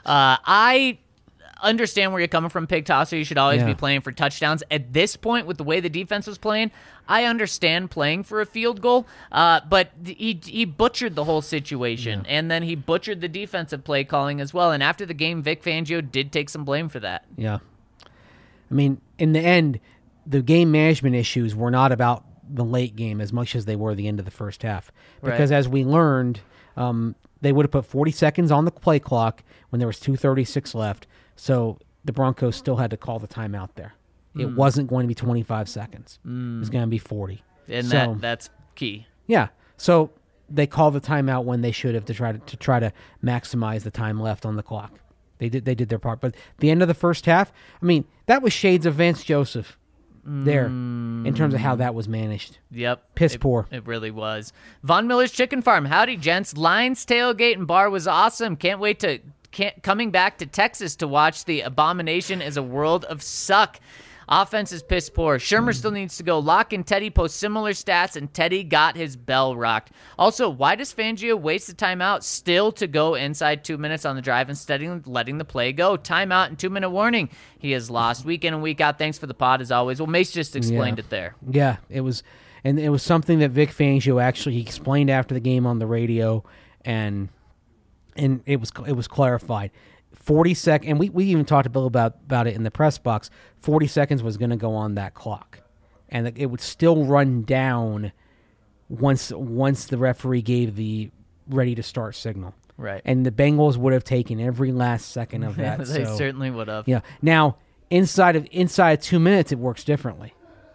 I understand where you're coming from, Pig Tosser. You should always be playing for touchdowns. At this point, with the way the defense was playing, I understand playing for a field goal, but he butchered the whole situation, and then he butchered the defensive play calling as well. And after the game, Vic Fangio did take some blame for that. Yeah. I mean, in the end, the game management issues were not about the late game as much as they were the end of the first half. Because as we learned, they would have put 40 seconds on the play clock when there was 2:36 left, so the Broncos still had to call the timeout there. It wasn't going to be 25 seconds. It was going to be 40. And that's key. Yeah. So they called the timeout when they should have to try to maximize the time left on the clock. They did their part. But the end of the first half, I mean, that was shades of Vance Joseph there in terms of how that was managed. Yep. Piss poor. It really was. Von Miller's Chicken Farm. Howdy, gents. Lions tailgate and bar was awesome. Coming back to Texas to watch the abomination is a world of suck. Offense is piss poor. Shermer still needs to go. Locke and Teddy post similar stats, and Teddy got his bell rocked. Also, why does Fangio waste the timeout still to go inside 2 minutes on the drive instead of letting the play go? Timeout and 2-minute warning. He has lost week in and week out. Thanks for the pod as always. Well, Mace just explained it there. Yeah, it was something that Vic Fangio he explained after the game on the radio, and it was clarified. 40 seconds, and we even talked to Bill about it in the press box. 40 seconds was going to go on that clock, and it would still run down once the referee gave the ready to start signal. Right. And the Bengals would have taken every last second of that. They so, certainly would have. yeah. Now, inside of 2 minutes, it works differently.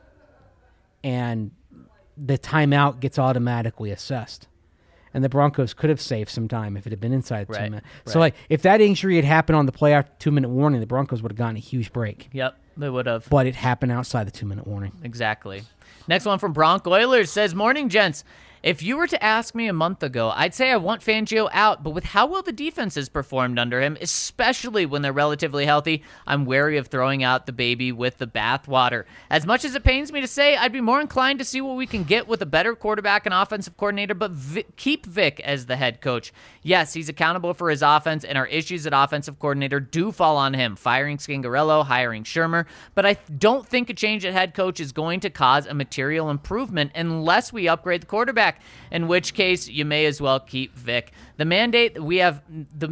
And the timeout gets automatically assessed. And the Broncos could have saved some time if it had been inside 2 minutes. So, like, if that injury had happened on the play after 2-minute warning, the Broncos would have gotten a huge break. Yep, they would have. But it happened outside the 2-minute warning. Exactly. Next one from Bronc Oilers says, "Morning, gents. If you were to ask me a month ago, I'd say I want Fangio out, but with how well the defense has performed under him, especially when they're relatively healthy, I'm wary of throwing out the baby with the bathwater. As much as it pains me to say, I'd be more inclined to see what we can get with a better quarterback and offensive coordinator, but keep Vic as the head coach. Yes, he's accountable for his offense, and our issues at offensive coordinator do fall on him, firing Scangarello, hiring Shermer, but I don't think a change at head coach is going to cause a material improvement unless we upgrade the quarterback, in which case you may as well keep Vic. The mandate may have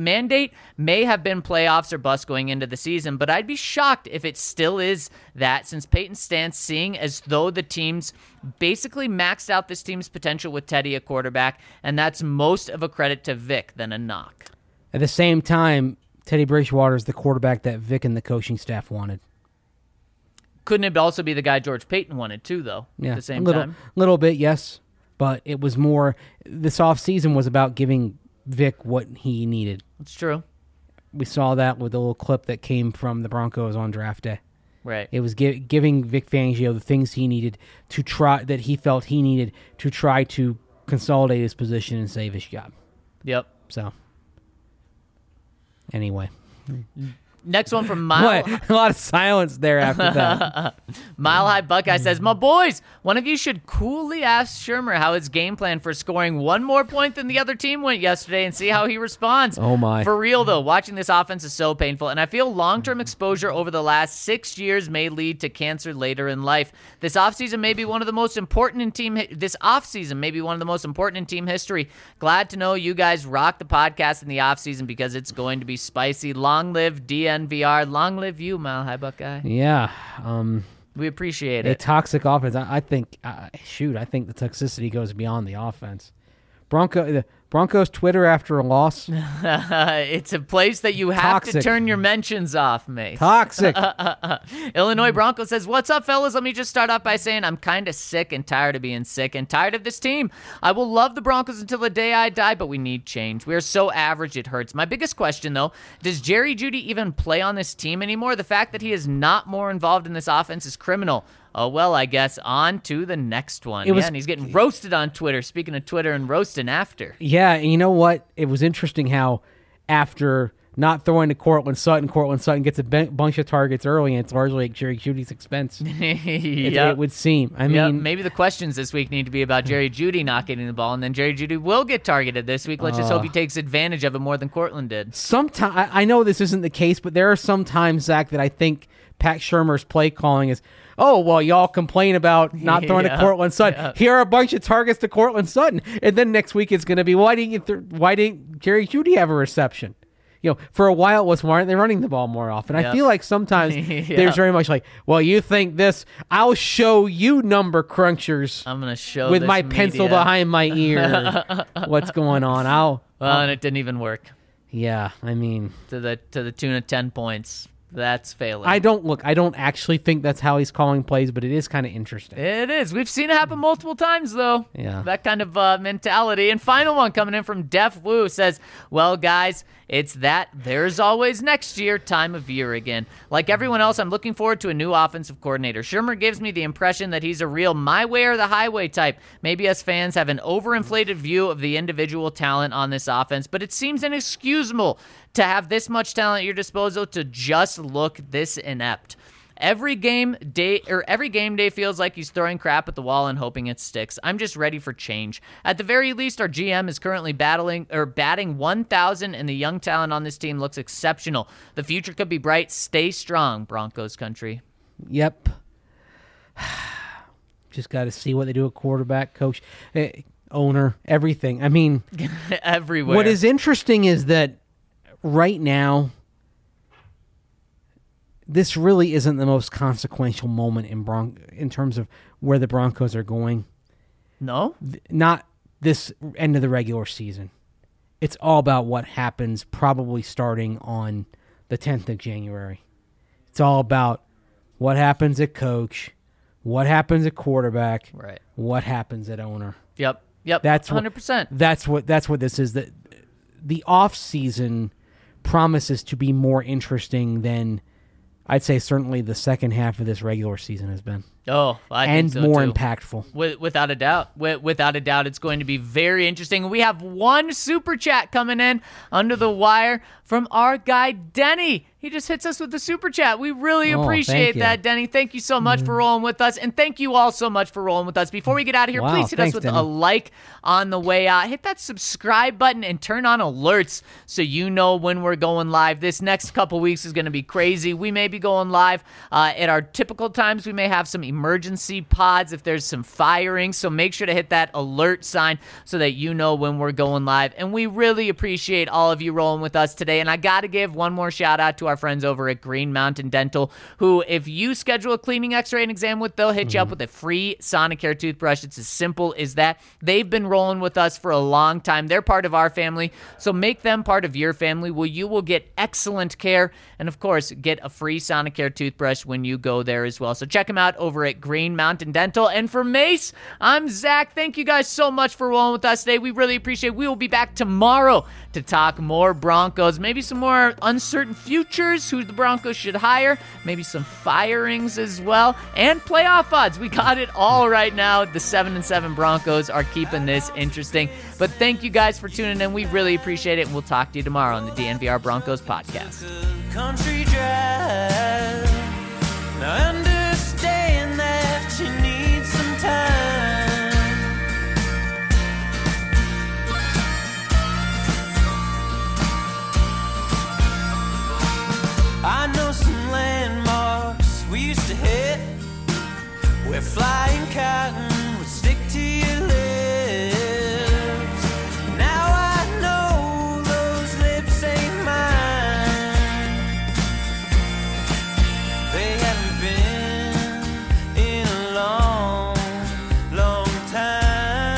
been playoffs or bust going into the season, but I'd be shocked if it still is that, since Peyton stands seeing as though the team's basically maxed out this team's potential with Teddy at quarterback, and that's most of a credit to Vic than a knock. At the same time, Teddy Bridgewater is the quarterback that Vic and the coaching staff wanted. Couldn't it also be the guy George Payton wanted too, though, Yeah, at the same a time? little bit, yes. But it was more, this offseason was about giving Vic what he needed. It's true. We saw that with the little clip that came from the Broncos on draft day. Right. It was giving Vic Fangio the things he needed to try, that he felt he needed to try to consolidate his position and save his job. Yep. So, anyway. Next one from Mile. What? A lot of silence there after that. Mile High Buckeye says, "My boys, one of you should coolly ask Shermer how his game plan for scoring one more point than the other team went yesterday and see how he responds." Oh, my. For real, though, watching this offense is so painful, and I feel long-term exposure over the last 6 years may lead to cancer later in life. This offseason may be one of the most important in team history. Glad to know you guys rock the podcast in the offseason because it's going to be spicy. Long live DNVR. Long live you, Mile High Buckeye. Yeah. We appreciate A it. toxic offense. I think the toxicity goes beyond the offense. The Broncos Twitter after a loss. It's a place that you have to Toxic. turn your mentions off, mate. Toxic. Illinois Bronco says, "What's up, fellas? Let me just start off by saying I'm kind of sick and tired of being sick and tired of this team. I will love the Broncos until the day I die, but we need change. We are so average, it hurts. My biggest question, though, does Jerry Jeudy even play on this team anymore? The fact that he is not more involved in this offense is criminal. Oh, well, I guess on to the next one." And he's getting roasted on Twitter. Speaking of Twitter and roasting after. Yeah, and you know what? It was interesting how after not throwing to Cortland Sutton gets a bunch of targets early, and it's largely at Jerry Judy's expense. It would seem. I mean, maybe the questions this week need to be about Jerry Jeudy not getting the ball, and then Jerry Jeudy will get targeted this week. Let's just hope he takes advantage of it more than Cortland did. sometimes I know this isn't the case, but there are some times, Zach, that I think Pat Shurmur's play calling is, "Oh, well, y'all complain about not throwing to Cortland Sutton. Yeah. Here are a bunch of targets to Cortland Sutton." And then next week it's going to be, why didn't Jerry Jeudy have a reception? For a while it was, why aren't they running the ball more often? Yeah. I feel like sometimes there's very much like, well, you think this, I'll show you number crunchers I'm going to show with this my pencil media. behind my ear what's going on. And it didn't even work Yeah, I mean, to the tune of 10 points. That's failing. I don't actually think that's how he's calling plays, but it is kind of interesting. It is. We've seen it happen multiple times, though. Yeah. That kind of mentality. And final one coming in from Def Wu says, "Well, guys, it's that there's always next year time of year again. Like everyone else, I'm looking forward to a new offensive coordinator. Shermer gives me the impression that he's a real my way or the highway type. Maybe us fans have an overinflated view of the individual talent on this offense, but it seems inexcusable to have this much talent at your disposal to just look this inept. Every game day feels like he's throwing crap at the wall and hoping it sticks. I'm just ready for change. At the very least, our GM is currently batting 1,000, and the young talent on this team looks exceptional. The future could be bright. Stay strong, Broncos country." Yep. Just got to see what they do at quarterback, coach, owner, everything. I mean, Everywhere. what is interesting is that right now, this really isn't the most consequential moment in terms of where the Broncos are going. No? Not this end of the regular season. it's all about what happens probably starting on the 10th of January. It's all about what happens at coach, what happens at quarterback, Right. what happens at owner. Yep. That's 100%. That's what this is. The off season promises to be more interesting than I'd say certainly the second half of this regular season has been. Oh, I and think so more too. impactful. Without a doubt. Without a doubt, it's going to be very interesting. We have one super chat coming in under the wire from our guy, Denny. He just hits us with the super chat. We really appreciate thank you. that, Denny. Thank you so much for rolling with us. And thank you all so much for rolling with us. Before we get out of here, Wow, please hit thanks, us with Denny. a like on the way out. Hit that subscribe button and turn on alerts so you know when we're going live. This next couple weeks is going to be crazy. We may be going live at our typical times. We may have some emergency pods if there's some firing. So make sure to hit that alert sign so that you know when we're going live. And we really appreciate all of you rolling with us today. And I got to give one more shout out to our friends over at Green Mountain Dental, who, if you schedule a cleaning, x-ray, and exam with, they'll hit you up with a free Sonicare toothbrush. It's as simple as that. They've been rolling with us for a long time. They're part of our family. So make them part of your family where you will get excellent care. And of course, get a free Sonicare toothbrush when you go there as well. So check them out over at Green Mountain Dental. And for Mace, I'm Zach. Thank you guys so much for rolling with us today. We really appreciate it. We will be back tomorrow to talk more Broncos, maybe some more uncertain futures, who the Broncos should hire, maybe some firings as well, and playoff odds. We got it all right now. The 7-7 Broncos are keeping this interesting. But thank you guys for tuning in. We really appreciate it. And we'll talk to you tomorrow on the DNVR Broncos podcast. Country drive. Now understand that you need some time. I know some landmarks we used to hit where flying cotton would stick to your lips. Now I know those lips ain't mine. They haven't been in a long, long time.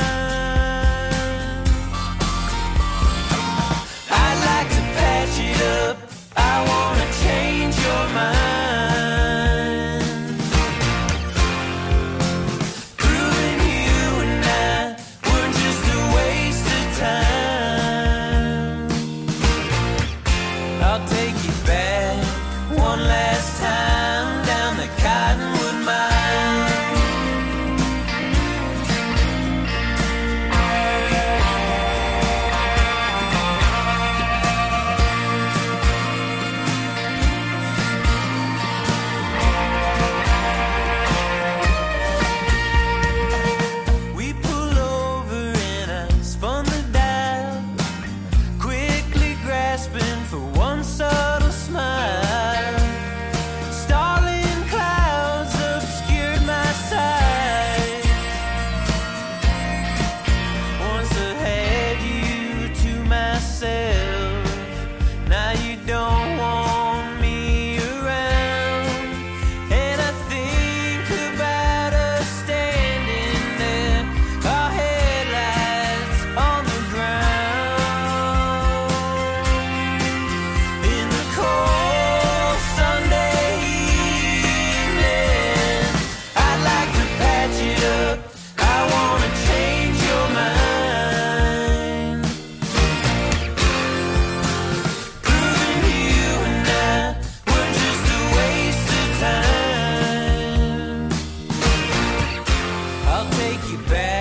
I'd like to patch it up. I wanna change your mind. Proving you and I were just a waste of time. I'll take you back one last time down the Cottonwood Mine. We pull over and I spun the dial, quickly grasping for one subtle smile. Starling clouds obscured my sight. Once I had you to myself, now you don't want me around. And I think about us standing there, our headlights on the ground. In the cold Sunday evening, I'd like to patch it up. I wanna change your mind. Proving you and I were just a waste of time. I'll take you back